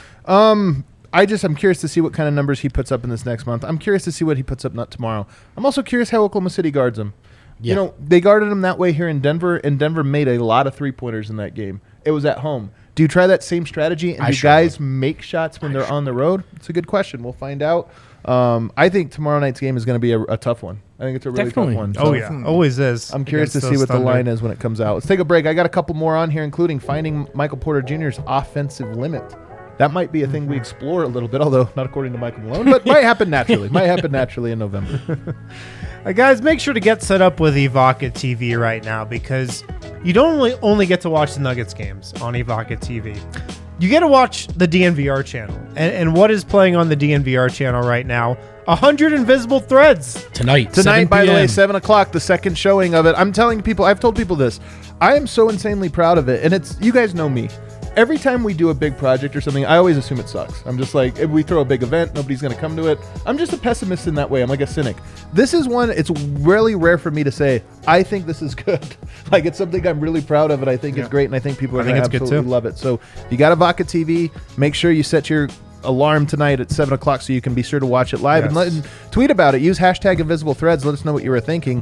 I'm curious to see what kind of numbers he puts up in this next month. I'm curious to see what he puts up not tomorrow. I'm also curious how Oklahoma City guards him. Yeah. They guarded him that way here in Denver, and Denver made a lot of three-pointers in that game. It was at home. Do you try that same strategy, and do guys make shots when they're on the road? It's a good question. We'll find out. I think tomorrow night's game is going to be a tough one. I think it's a really tough one. Oh, yeah. Always is. I'm curious to see what the line is when it comes out. Let's take a break. I got a couple more on here, including finding Michael Porter Jr.'s offensive limit. That might be a thing we explore a little bit, although not according to Michael Malone, but might happen naturally. Might happen naturally in November. Guys, make sure to get set up with Evoca TV right now, because you don't only get to watch the Nuggets games on Evoca TV. You get to watch the DNVR channel. And what is playing on the DNVR channel right now? 100 Invisible Threads. Tonight, by the way, 7 7 o'clock, the second showing of it. I'm telling people, I've told people this. I am so insanely proud of it. And you guys know me. Every time we do a big project or something, I always assume it sucks. I'm just like, if we throw a big event, nobody's going to come to it. I'm just a pessimist in that way. I'm like a cynic. This is one, it's really rare for me to say, I think this is good. Like, it's something I'm really proud of, and I think it's great, and I think people are going to absolutely love it. So if you got Evoca TV, make sure you set your alarm tonight at 7 o'clock so you can be sure to watch it live, and tweet about it. Use hashtag Invisible Threads. Let us know what you were thinking.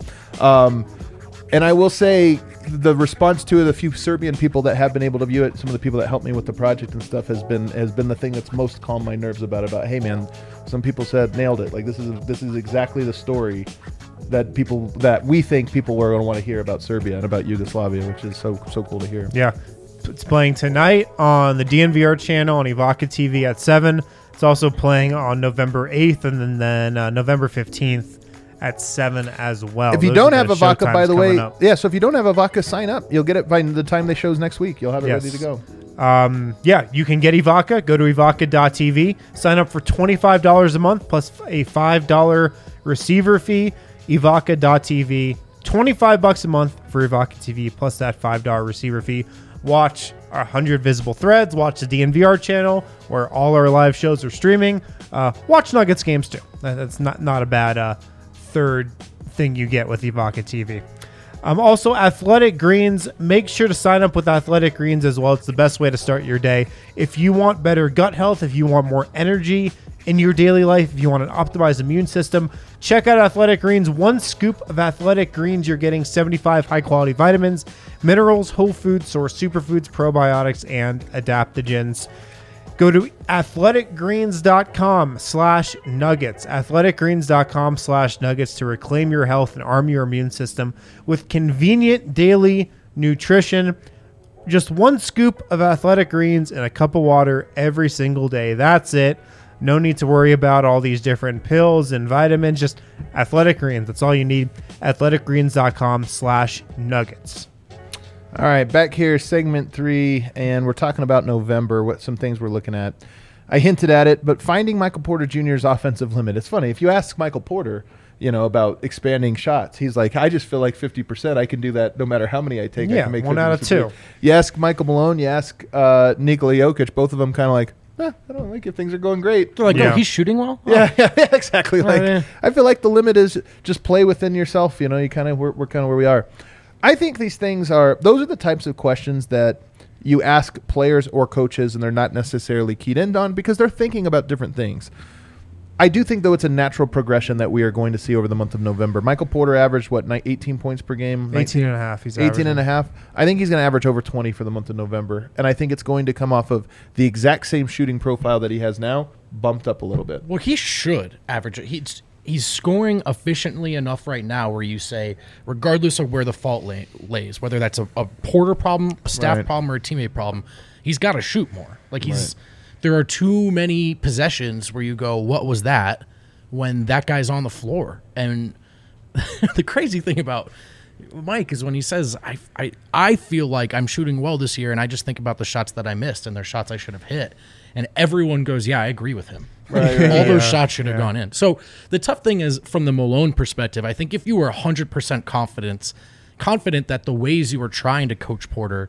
And I will say, the response to the few Serbian people that have been able to view it, some of the people that helped me with the project and stuff, has been the thing that's most calmed my nerves about it. About, hey man, some people said nailed it. Like, this is exactly the story that we think people were going to want to hear about Serbia and about Yugoslavia, which is so cool to hear. Yeah, it's playing tonight on the DNVR channel on Evoca TV at 7. It's also playing on November 8th and then November 15th. At 7 as well. If you don't have Evoca, by the way, so if you don't have Evoca, sign up. You'll get it by the time they shows next week. You'll have it ready to go. You can get Evoca. Go to evoca.tv. Sign up for $25 a month plus a $5 receiver fee. Evoca.tv. $25 a month for Evoca TV plus that $5 receiver fee. Watch 100 Visible Threads. Watch the DNVR channel where all our live shows are streaming. Watch Nuggets games too. That's not a bad third thing you get with Evoca TV. Also, Athletic Greens. Make sure to sign up with Athletic Greens as well. It's the best way to start your day. If you want better gut health, if you want more energy in your daily life, if you want an optimized immune system, check out Athletic Greens. 1 scoop of Athletic Greens, you're getting 75 high-quality vitamins, minerals, whole food source superfoods, probiotics, and adaptogens. Go to athleticgreens.com/nuggets. athleticgreens.com/nuggets to reclaim your health and arm your immune system with convenient daily nutrition. Just 1 scoop of Athletic Greens in a cup of water every single day. That's it. No need to worry about all these different pills and vitamins. Just Athletic Greens. That's all you need. athleticgreens.com/nuggets. All right, back here, segment 3, and we're talking about November, some things we're looking at. I hinted at it, but finding Michael Porter Jr.'s offensive limit. It's funny. If you ask Michael Porter, about expanding shots, he's like, I just feel like 50%. I can do that no matter how many I take. Yeah, I can make 1 out of 2. You ask Michael Malone, you ask Nikola Jokic, both of them kind of like, I don't like if things are going great. They're like, oh, he's shooting well? Yeah, exactly. I feel like the limit is just play within yourself. You kind of, we're kind of where we are. I think these things those are the types of questions that you ask players or coaches, and they're not necessarily keyed in on because they're thinking about different things. I do think, though, it's a natural progression that we are going to see over the month of November. Michael Porter averaged, 18 points per game? 18 and a half. He's 18 and a half. I think he's going to average over 20 for the month of November, and I think it's going to come off of the exact same shooting profile that he has now, bumped up a little bit. Well, he should average it. He's scoring efficiently enough right now where you say, regardless of where the fault lays, whether that's a Porter problem, a staff problem, or a teammate problem, he's got to shoot more. Like there are too many possessions where you go, what was that, when that guy's on the floor. And the crazy thing about Mike is when he says, I feel like I'm shooting well this year, and I just think about the shots that I missed, and they're shots I should have hit. And everyone goes, yeah, I agree with him. Right. All those shots should have gone in. So the tough thing is, from the Malone perspective, I think if you were 100% confident that the ways you were trying to coach Porter,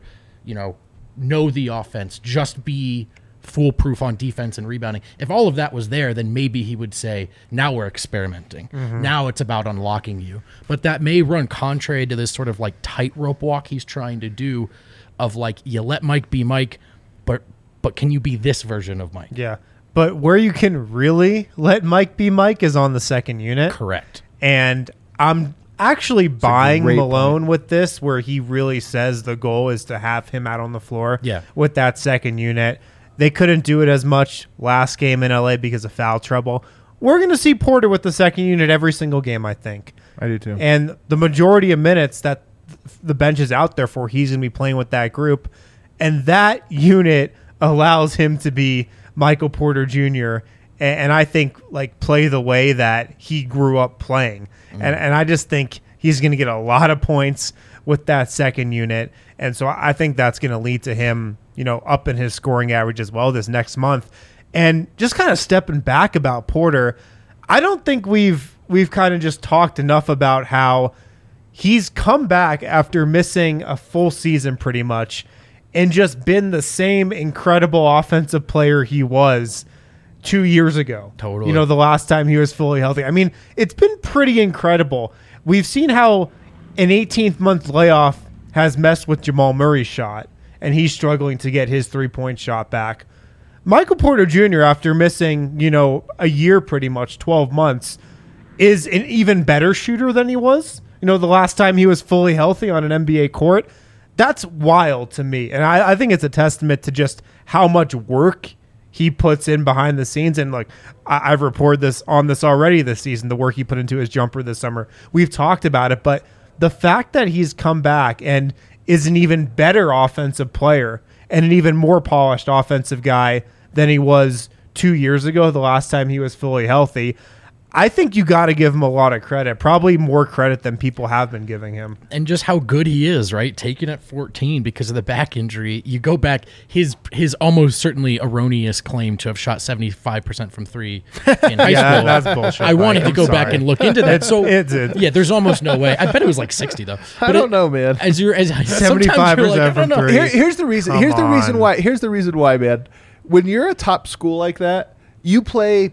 know the offense, just be foolproof on defense and rebounding. If all of that was there, then maybe he would say, now we're experimenting. Now it's about unlocking you. But that may run contrary to this sort of like tightrope walk he's trying to do of like, you let Mike be Mike, but can you be this version of Mike? Yeah. But where you can really let Mike be Mike is on the second unit. Correct. And I'm actually buying great Malone point. with this, where he really says the goal is to have him out on the floor with that second unit. They couldn't do it as much last game in LA because of foul trouble. We're going to see Porter with the second unit every single game, I think. I do too. And the majority of minutes that the bench is out there for, he's going to be playing with that group. And that unit allows him to be Michael Porter Jr. and I think like play the way that he grew up playing. And I just think he's going to get a lot of points with that second unit. And so I think that's going to lead to him, up in his scoring average as well this next month. And just kind of stepping back about Porter, I don't think we've kind of just talked enough about how he's come back after missing a full season pretty much and just been the same incredible offensive player he was 2 years ago. Totally. The last time he was fully healthy. I mean, it's been pretty incredible. We've seen how an 18th month layoff has messed with Jamal Murray's shot, and he's struggling to get his 3-point shot back. Michael Porter Jr., after missing, a year pretty much, 12 months, is an even better shooter than he was. The last time he was fully healthy on an NBA court. That's wild to me. And I think it's a testament to just how much work he puts in behind the scenes. And like I've reported this already this season, the work he put into his jumper this summer. We've talked about it, but the fact that he's come back and is an even better offensive player and an even more polished offensive guy than he was 2 years ago, the last time he was fully healthy, I think you got to give him a lot of credit, probably more credit than people have been giving him. And just how good he is, right? Taken at 14 because of the back injury. You go back, his almost certainly erroneous claim to have shot 75% from three in high school. That's bullshit. I wanted to go back and look into that. So it's there's almost no way. I bet it was like 60 though. I don't know, man. As 75% from three. Here's the reason. Here's the reason why, man. When you're a top school like that, you play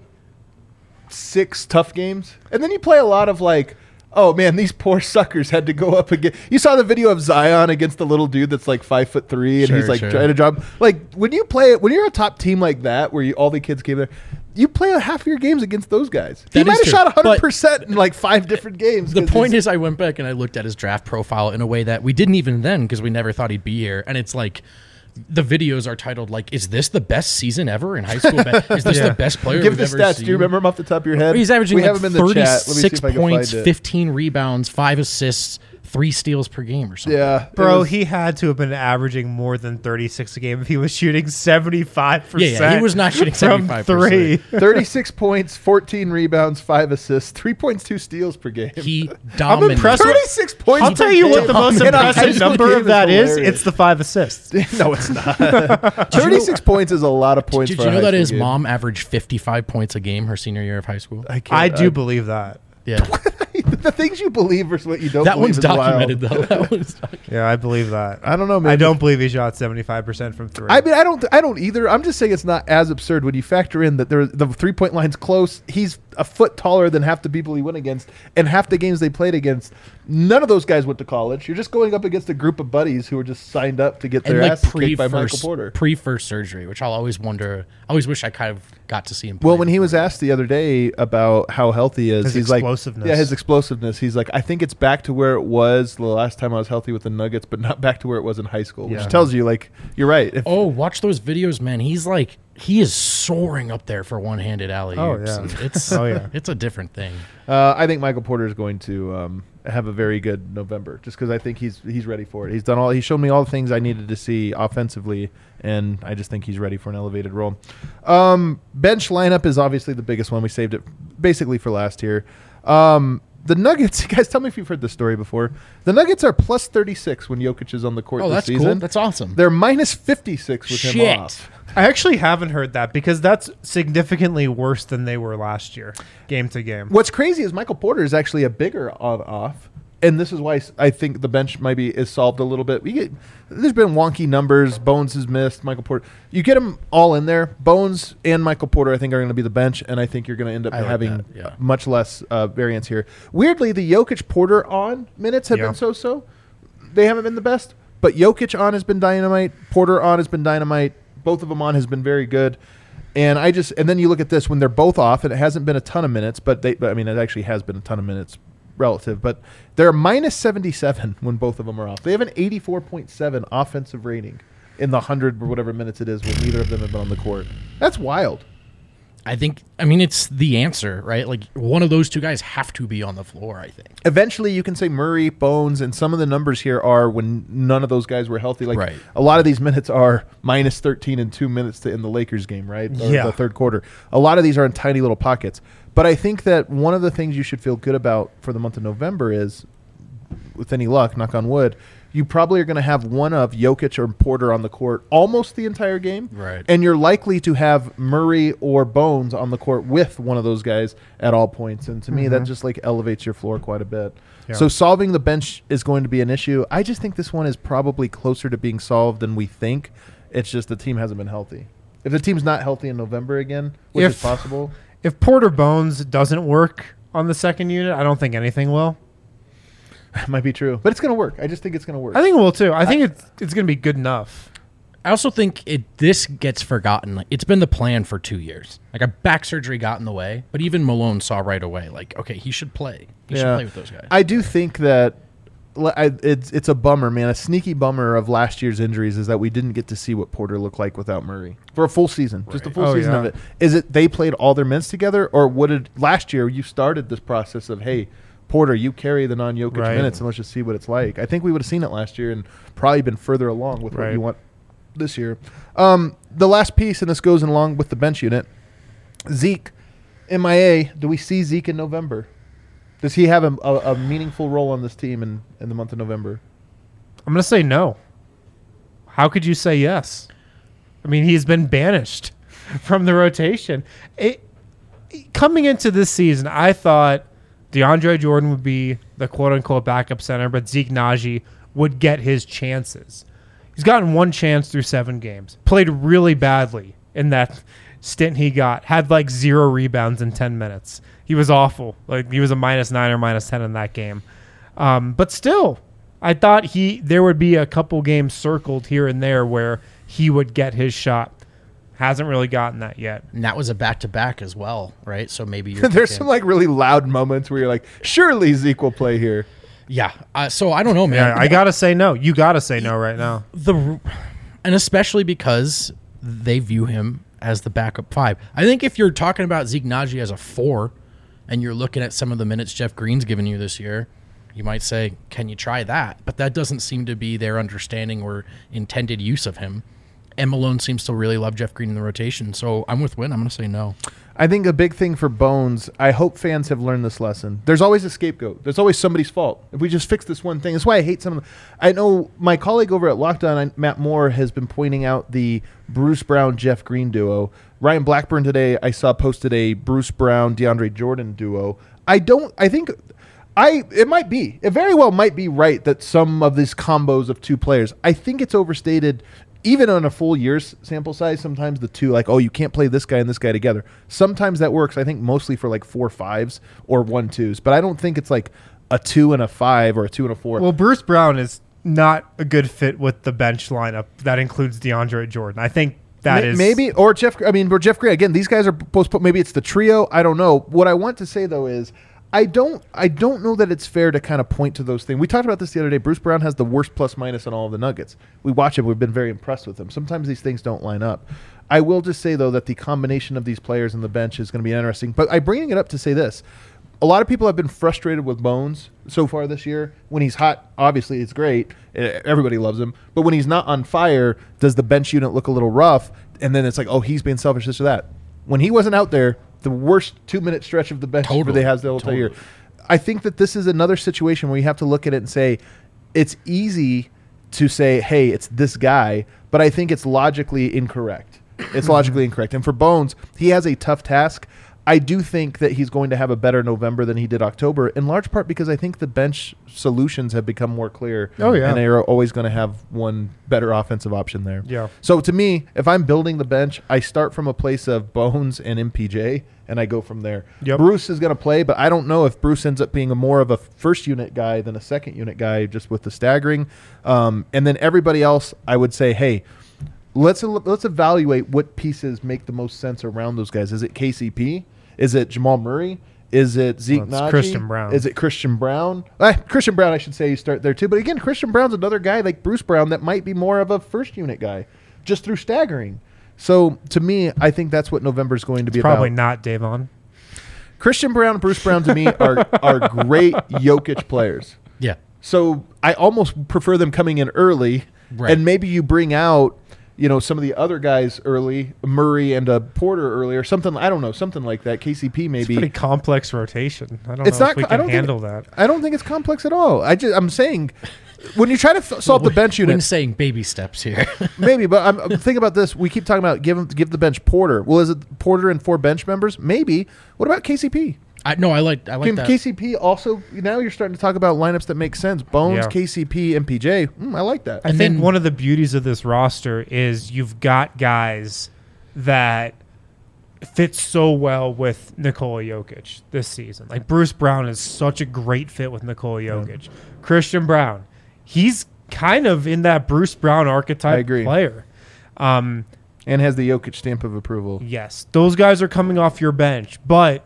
6 tough games, and then you play a lot of like, oh man, these poor suckers had to go up again. You saw the video of Zion against the little dude that's like 5'3", and he's like trying to drop. Like when you're a top team like that, where all the kids came there, you play half of your games against those guys. He might have shot 100% in like 5 different games. The point is, I went back and I looked at his draft profile in a way that we didn't even then, because we never thought he'd be here, and it's like, the videos are titled like, is this the best season ever in high school? Is this the best player Give we've the ever stats. seen? Do you remember him off the top of your head? He's averaging we like have him in the chat. Let me see 36 if I can points, find it. 15 rebounds, 5 assists, 3 steals per game or something. Yeah, Bro, he had to have been averaging more than 36 a game if he was shooting 75%. Yeah, he was not shooting from 75%. 3. 36 points, 14 rebounds, 5 assists, 3 points, 2 steals per game. He I'm dominated. impressed. 36 points. I'll tell you what the most In a high impressive school number game of that is. hilarious. It's the 5 assists. No, it's not. 36 points is a lot of points. Did for you a know high that school his game. mom averaged 55 points a game her senior year of high school? I do believe that. Yeah. The things you believe versus what you don't That believe one's is wild. documented, though. That one's documented. Yeah, I believe that. I don't know, man. I don't believe he shot 75% from 3. I mean, I don't either. I'm just saying it's not as absurd when you factor in that the 3-point line's close. He's a foot taller than half the people he went against, and half the games they played against, none of those guys went to college. You're just going up against a group of buddies who were just signed up to get their And like asses kicked by Michael Porter. pre-first surgery, which I'll always wonder. I always wish I kind of got to see him play. Well, when he was asked the other day about how healthy he is, His he's explosiveness. like, yeah, his explosiveness. He's like, I think it's back to where it was the last time I was healthy with the Nuggets, but not back to where it was in high school, which Yeah. tells you, like, you're right. If, watch those videos, man. He is soaring up there for one-handed alley-oops. Oh, yeah. It's Oh, yeah. it's a different thing. I think Michael Porter is going to have a very good November, just because I think he's ready for it. He's shown me all the things I needed to see offensively, and I just think he's ready for an elevated role. Bench lineup is obviously the biggest one. We saved it basically for last here. The Nuggets, you guys, tell me if you've heard this story before. The Nuggets are plus 36 when Jokic is on the court Oh, this that's season. cool. That's awesome. They're minus 56 with him Shit. off. I actually haven't heard that because that's significantly worse than they were last year, game to game. What's crazy is Michael Porter is actually a bigger on-off, and this is why I think the bench is solved a little bit. There's been wonky numbers. Bones has missed. Michael Porter. You get them all in there. Bones and Michael Porter, I think, are going to be the bench, and I think you're going to end up I like having that, yeah. much less variance here. Weirdly, the Jokic Porter on minutes have been so-so. They haven't been the best, but Jokic on has been dynamite. Porter on has been dynamite. Both of them on has been very good. And then you look at this when they're both off, and it hasn't been a ton of minutes, but it actually has been a ton of minutes relative, but they're minus 77 when both of them are off. They have an 84.7 offensive rating in the 100 or whatever minutes it is when neither of them have been on the court. That's wild. It's the answer, right? Like, one of those two guys have to be on the floor, I think. Eventually, you can say Murray, Bones, and some of the numbers here are when none of those guys were healthy. Like, Right. a lot of these minutes are minus 13 and 2 minutes to end the Lakers game, right? Or Yeah. the third quarter. A lot of these are in tiny little pockets. But I think that one of the things you should feel good about for the month of November is, with any luck, knock on wood, you probably are going to have one of Jokic or Porter on the court almost the entire game. Right. And you're likely to have Murray or Bones on the court with one of those guys at all points. And to me, that just like elevates your floor quite a bit. Yeah. So solving the bench is going to be an issue. I just think this one is probably closer to being solved than we think. It's just the team hasn't been healthy. If the team's not healthy in November again, which is possible. If Porter Bones doesn't work on the second unit, I don't think anything will. It might be true. But it's going to work. I just think it's going to work. I think it will too. I think it's going to be good enough. I also think this gets forgotten. Like, it's been the plan for 2 years. Like, a back surgery got in the way, but even Malone saw right away, like, okay, he should play. He should play with those guys. I do think that it's a bummer, man. A sneaky bummer of last year's injuries is that we didn't get to see what Porter looked like without Murray for a full season, just a full Oh, season yeah. of it. Is it they played all their minutes together, or last year you started this process of, hey, Porter, you carry the non-Jokic Right. minutes, and let's just see what it's like. I think we would have seen it last year and probably been further along with what Right. you want this year. The last piece, and this goes along with the bench unit, Zeke, MIA. Do we see Zeke in November? Does he have a meaningful role on this team in the month of November? I'm going to say no. How could you say yes? I mean, he's been banished from the rotation. Coming into this season, I thought DeAndre Jordan would be the quote-unquote backup center, but Zeke Naji would get his chances. He's gotten one chance through 7 games. Played really badly in that stint he got. Had like 0 rebounds in 10 minutes. He was awful. Like, he was a -9 or -10 in that game. But still, I thought there would be a couple games circled here and there where he would get his shot. Hasn't really gotten that yet. And that was a back-to-back as well, right? So maybe you're There's thinking- some like really loud moments where you're like, surely Zeke will play here. Yeah. So I don't know, man. Yeah, I got to say no. You got to say no right now. And especially because they view him as the backup 5. I think if you're talking about Zeke Naji as a 4 and you're looking at some of the minutes Jeff Green's given you this year, you might say, can you try that? But that doesn't seem to be their understanding or intended use of him. And Malone seems to really love Jeff Green in the rotation. So I'm with Wynn. I'm going to say no. I think a big thing for Bones, I hope fans have learned this lesson. There's always a scapegoat. There's always somebody's fault. If we just fix this one thing. That's why I hate some of them. I know my colleague over at Lockdown, Matt Moore, has been pointing out the Bruce Brown-Jeff Green duo. Ryan Blackburn today, I saw posted a Bruce Brown-DeAndre Jordan duo. It very well might be right that some of these combos of two players, I think it's overstated. Even on a full year's sample size, sometimes the two, like, oh, you can't play this guy and this guy together. Sometimes that works, I think, mostly for like 4-5s or 1-2s. But I don't think it's like a 2 and a 5 or a 2 and a 4. Well, Bruce Brown is not a good fit with the bench lineup. That includes DeAndre Jordan. I think that is... Maybe, or Jeff Green. Again, these guys are supposed to put, maybe it's the trio. I don't know. What I want to say, though, is I don't know that it's fair to kind of point to those things. We talked about this the other day. Bruce Brown has the worst plus-minus on all of the Nuggets. We watch him. We've been very impressed with him. Sometimes these things don't line up. I will just say, though, that the combination of these players on the bench is going to be interesting. But I'm bringing it up to say this. a lot of people have been frustrated with Bones so far this year. When he's hot, obviously it's great. Everybody loves him. But when he's not on fire, does the bench unit look a little rough? And then it's like, oh, he's being selfish, this or that. When he wasn't out there, the worst 2-minute stretch of the bench Totally. they has the whole year. I think that this is another situation where you have to look at it and say, it's easy to say, hey, it's this guy, but I think it's logically incorrect. It's logically incorrect. And for Bones, he has a tough task. I do think that he's going to have a better November than he did October, in large part because I think the bench solutions have become more clear. Oh, yeah. And they are always going to have one better offensive option there. Yeah. So to me, if I'm building the bench, I start from a place of Bones and MPJ, and I go from there. Yep. Bruce is going to play, but I don't know if Bruce ends up being more of a first unit guy than a second unit guy, just with the staggering. And then everybody else, I would say, hey, let's evaluate what pieces make the most sense around those guys. Is it KCP? Is it Jamal Murray? Is it Zeke Well, it's Naji? Christian Brown. Is it Christian Brown? Christian Brown, I should say, you start there too. But again, Christian Brown's another guy like Bruce Brown that might be more of a first unit guy, just through staggering. So to me, I think that's what November is going to be Probably about. not Davon. Christian Brown, Bruce Brown to me are great Jokic players. Yeah. So I almost prefer them coming in early, Right. and maybe you bring out, some of the other guys early, Murray and Porter early, or something. I don't know, something like that. KCP It's a maybe. pretty complex rotation. I don't It's know not. if we I can don't handle think, that. I don't think it's complex at all. I'm saying, when you try to solve the bench When unit, saying baby steps here. maybe. But I'm thinking about this. We keep talking about give the bench Porter. Well, is it Porter and 4 bench members? Maybe. What about KCP? I like Can that. KCP also? Now you're starting to talk about lineups that make sense. Bones, Yeah. KCP, MPJ. I like that. I And think then- one of the beauties of this roster is you've got guys that fit so well with Nikola Jokic this season. Like Bruce Brown is such a great fit with Nikola Jokic. Christian Brown, he's kind of in that Bruce Brown archetype I agree. player. And has the Jokic stamp of approval. Yes, those guys are coming off your bench, but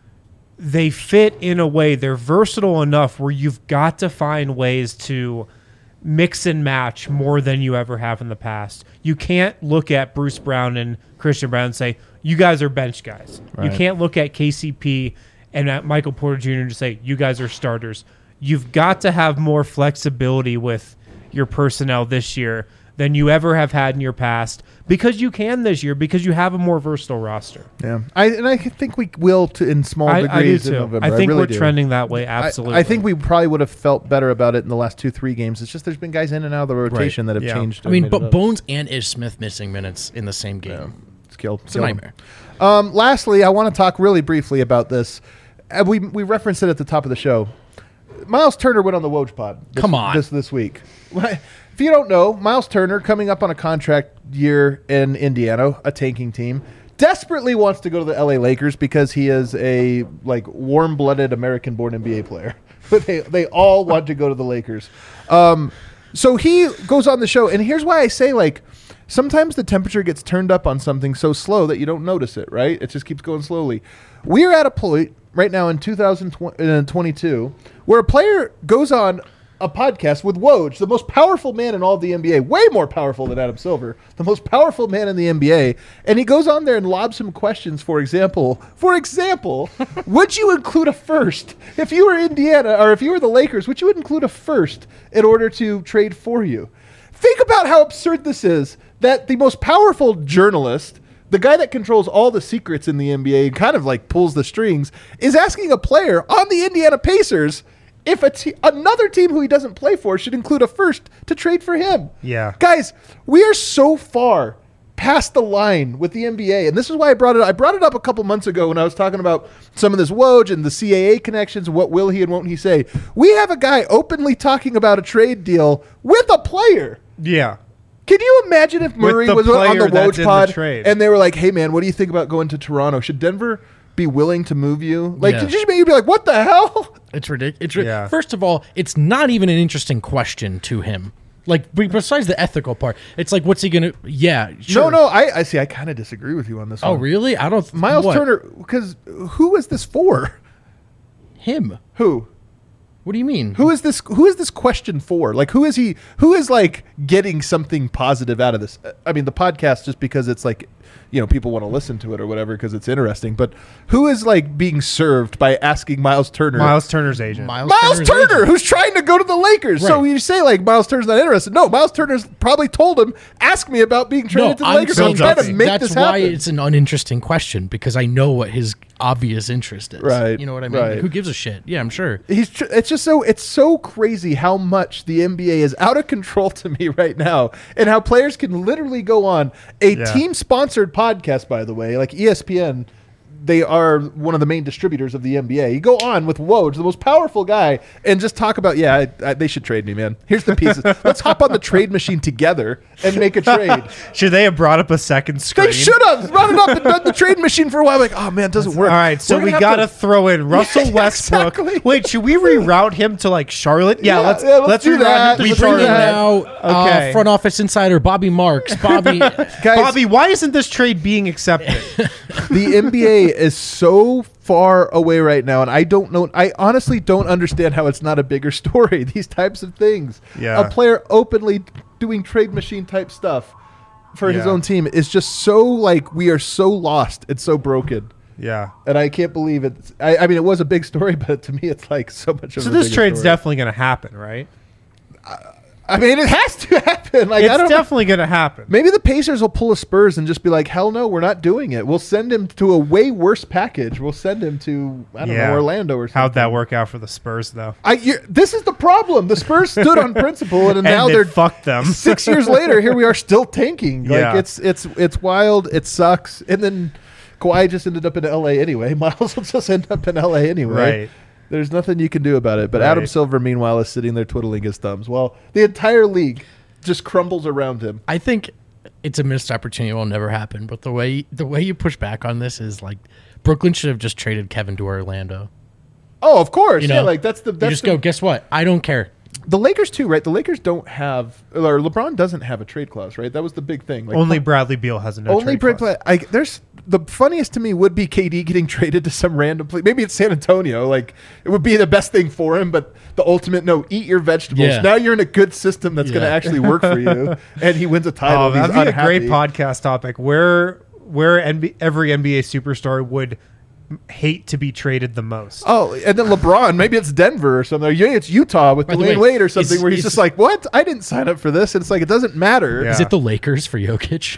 they fit in a way. They're versatile enough where you've got to find ways to mix and match more than you ever have in the past. You can't look at Bruce Brown and Christian Brown and say, you guys are bench guys. Right. You can't look at KCP and at Michael Porter Jr. and say, you guys are starters. You've got to have more flexibility with your personnel this year than you ever have had in your past, because you can this year, because you have a more versatile roster. Yeah, I think we will in small I do degrees in too. November. I think really we're do. trending that way. Absolutely. I think we probably would have felt better about it in the last 2-3 games. It's just there's been guys in and out of the rotation that have Yeah. changed. I mean, and made but it up. Bones and Ish Smith missing minutes in the same game. It's killed. It's a nightmare. Lastly, I want to talk really briefly about this. We referenced it at the top of the show. Miles Turner went on the Woj pod. Come on. This week. If you don't know, Miles Turner, coming up on a contract year in Indiana, a tanking team, desperately wants to go to the LA Lakers because he is a warm-blooded American-born NBA player. But they all want to go to the Lakers. So he goes on the show, and here's why I say sometimes the temperature gets turned up on something so slow that you don't notice it, right? It just keeps going slowly. We are at a point right now in 2022 where a player goes on a podcast with Woj, the most powerful man in all of the NBA, way more powerful than Adam Silver, the most powerful man in the NBA, and he goes on there and lobs him questions. For example, would you include a first if you were Indiana, or if you were the Lakers? Would you include a first in order to trade for you? Think about how absurd this is, that the most powerful journalist, the guy that controls all the secrets in the NBA and kind of pulls the strings, is asking a player on the Indiana Pacers if another team who he doesn't play for should include a first to trade for him. Yeah. Guys, we are so far past the line with the NBA, and this is why I brought it up. I brought it up a couple months ago when I was talking about some of this Woj and the CAA connections, what will he and won't he say. We have a guy openly talking about a trade deal with a player. Yeah. Can you imagine if Murray the was on player the that Woj did the pod trade. and they were like, hey, man, what do you think about going to Toronto? Should Denver be willing to move you? Yeah. Could you be like, what the hell? It's ridiculous. Yeah. First of all, it's not even an interesting question to him. Besides the ethical part, it's what's he gonna? Yeah, sure. No, I see. I kind of disagree with you on this one. Oh, really? I don't. Miles what? Turner, because who is this for? Him. Who? What do you mean? Who is this question for? Who is getting something positive out of this? I mean, the podcast, just because it's people want to listen to it or whatever because it's interesting. But who is like being served by asking Miles Turner? Miles Turner's agent. Miles Turner, who's trying to go to the Lakers. Right. So you say like Miles Turner's not interested. No, Miles Turner's probably told him, ask me about being traded to the Lakers. I'm trying to make that's this why happen. it's an uninteresting question because I know what his obvious interest is. Right, You know what I mean? right. Like, who gives a shit? Yeah, I'm sure. It's so crazy how much the NBA is out of control to me right now, and how players can literally go on a team-sponsored podcast. By the way, like ESPN, they are one of the main distributors of the NBA. You go on with Woj, the most powerful guy, and just talk about, they should trade me, man. Here's the pieces. Let's hop on the trade machine together and make a trade. Should they have brought up a second screen? They should have brought it up and done the trade machine for a while. Like, oh man, it doesn't work. All right, so we got to throw in Russell Westbrook. Exactly. Wait, should we reroute him to like Charlotte? Yeah, let's do reroute that. him to We bring in Charlotte. now Okay. front office insider Bobby Marks. Bobby, Guys, Bobby, why isn't this trade being accepted? the NBA is so far away right now, and I don't know. I honestly don't understand how it's not a bigger story. These types of things. Yeah. A player openly doing trade machine type stuff for his own team is just so like we are so lost. It's so broken. Yeah. And I can't believe it. I mean, it was a big story, but to me, it's like so much of So a this bigger trade's story. definitely going to happen, right? I mean, it has to happen. Like, I It's don't know. definitely going to happen. Maybe the Pacers will pull a Spurs and just be like, hell no, we're not doing it. We'll send him to a way worse package. We'll send him to, I don't know, Orlando or something. How'd that work out for the Spurs, though? This is the problem. The Spurs stood on principle, and now they they're fucked them. 6 years later, here we are still tanking. Like, Yeah. it's wild. It sucks. And then Kawhi just ended up in L.A. anyway. Miles will just end up in L.A. anyway. Right. There's nothing you can do about it. But Right. Adam Silver, meanwhile, is sitting there twiddling his thumbs. Well, the entire league just crumbles around him. I think it's a missed opportunity. It will never happen. But the way you push back on this is like Brooklyn should have just traded Kevin to Orlando. Oh, of course. You know, Yeah, like that's You just go, guess what? I don't care. The Lakers too, right? The Lakers don't have, or LeBron doesn't have a trade clause, right? That was the big thing. Like, Only Bradley Beal has a no only trade trade clause. clause. There's the funniest to me would be KD getting traded to some random place. Maybe it's San Antonio. Like it would be the best thing for him, but the ultimate no, eat your vegetables. Yeah. Now you're in a good system that's going to Yeah. actually work for you, and he wins a title. Oh, and that'd he's be a great unhappy. podcast topic where every NBA superstar would hate to be traded the most. Oh, and then LeBron, maybe it's Denver or something. Or yeah, it's Utah with By the Dwayne way, Wade or something, where he's is- just like, "What? I didn't sign up for this." And it's like it doesn't matter. Yeah. Is it the Lakers for Jokic?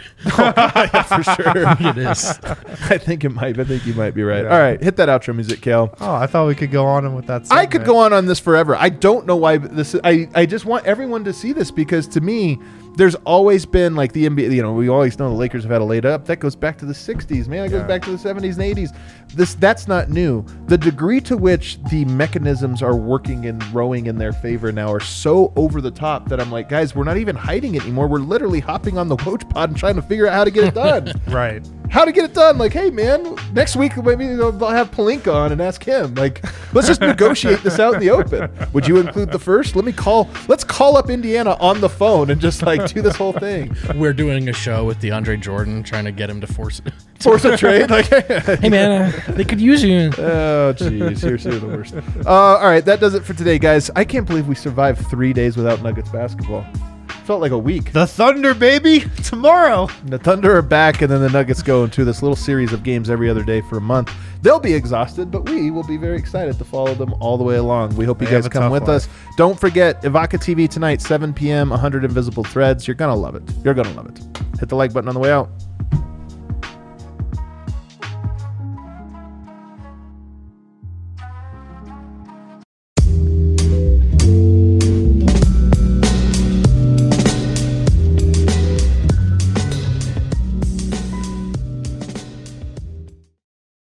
for sure. It is. I think it might. I think you might be right. Yeah. All right, hit that outro music, Kale. Oh, I thought we could go on with that. I could go on this forever. I don't know why this. I just want everyone to see this because to me, there's always been like the NBA. You know, we always know the Lakers have had a laid up. That goes back to the '60s, man. It goes back to the '70s and '80s. That's not new. The degree to which the mechanisms are working and rowing in their favor now are so over the top that I'm like, guys, we're not even hiding it anymore. We're literally hopping on the Woj pod and trying to figure out how to get it done. Right. How to get it done? Like, hey man, next week maybe I'll have Pelinka on and ask him. Like, let's just negotiate this out in the open. Would you include the first? Let's call up Indiana on the phone and just like do this whole thing. We're doing a show with DeAndre Jordan, trying to get him to force Force a trade. Like, Hey man, they could use you. oh jeez, you're the worst. All right, that does it for today, guys. I can't believe we survived 3 days without Nuggets basketball. Felt like a week. The Thunder, baby, tomorrow. The Thunder are back, and then the Nuggets go into this little series of games every other day for a month. They'll be exhausted, but we will be very excited to follow them all the way along. We hope you They have guys a come tough with life. us. Don't forget, Ivaka TV tonight, 7 p.m., 100 Invisible Threads. You're going to love it. You're going to love it. Hit the like button on the way out.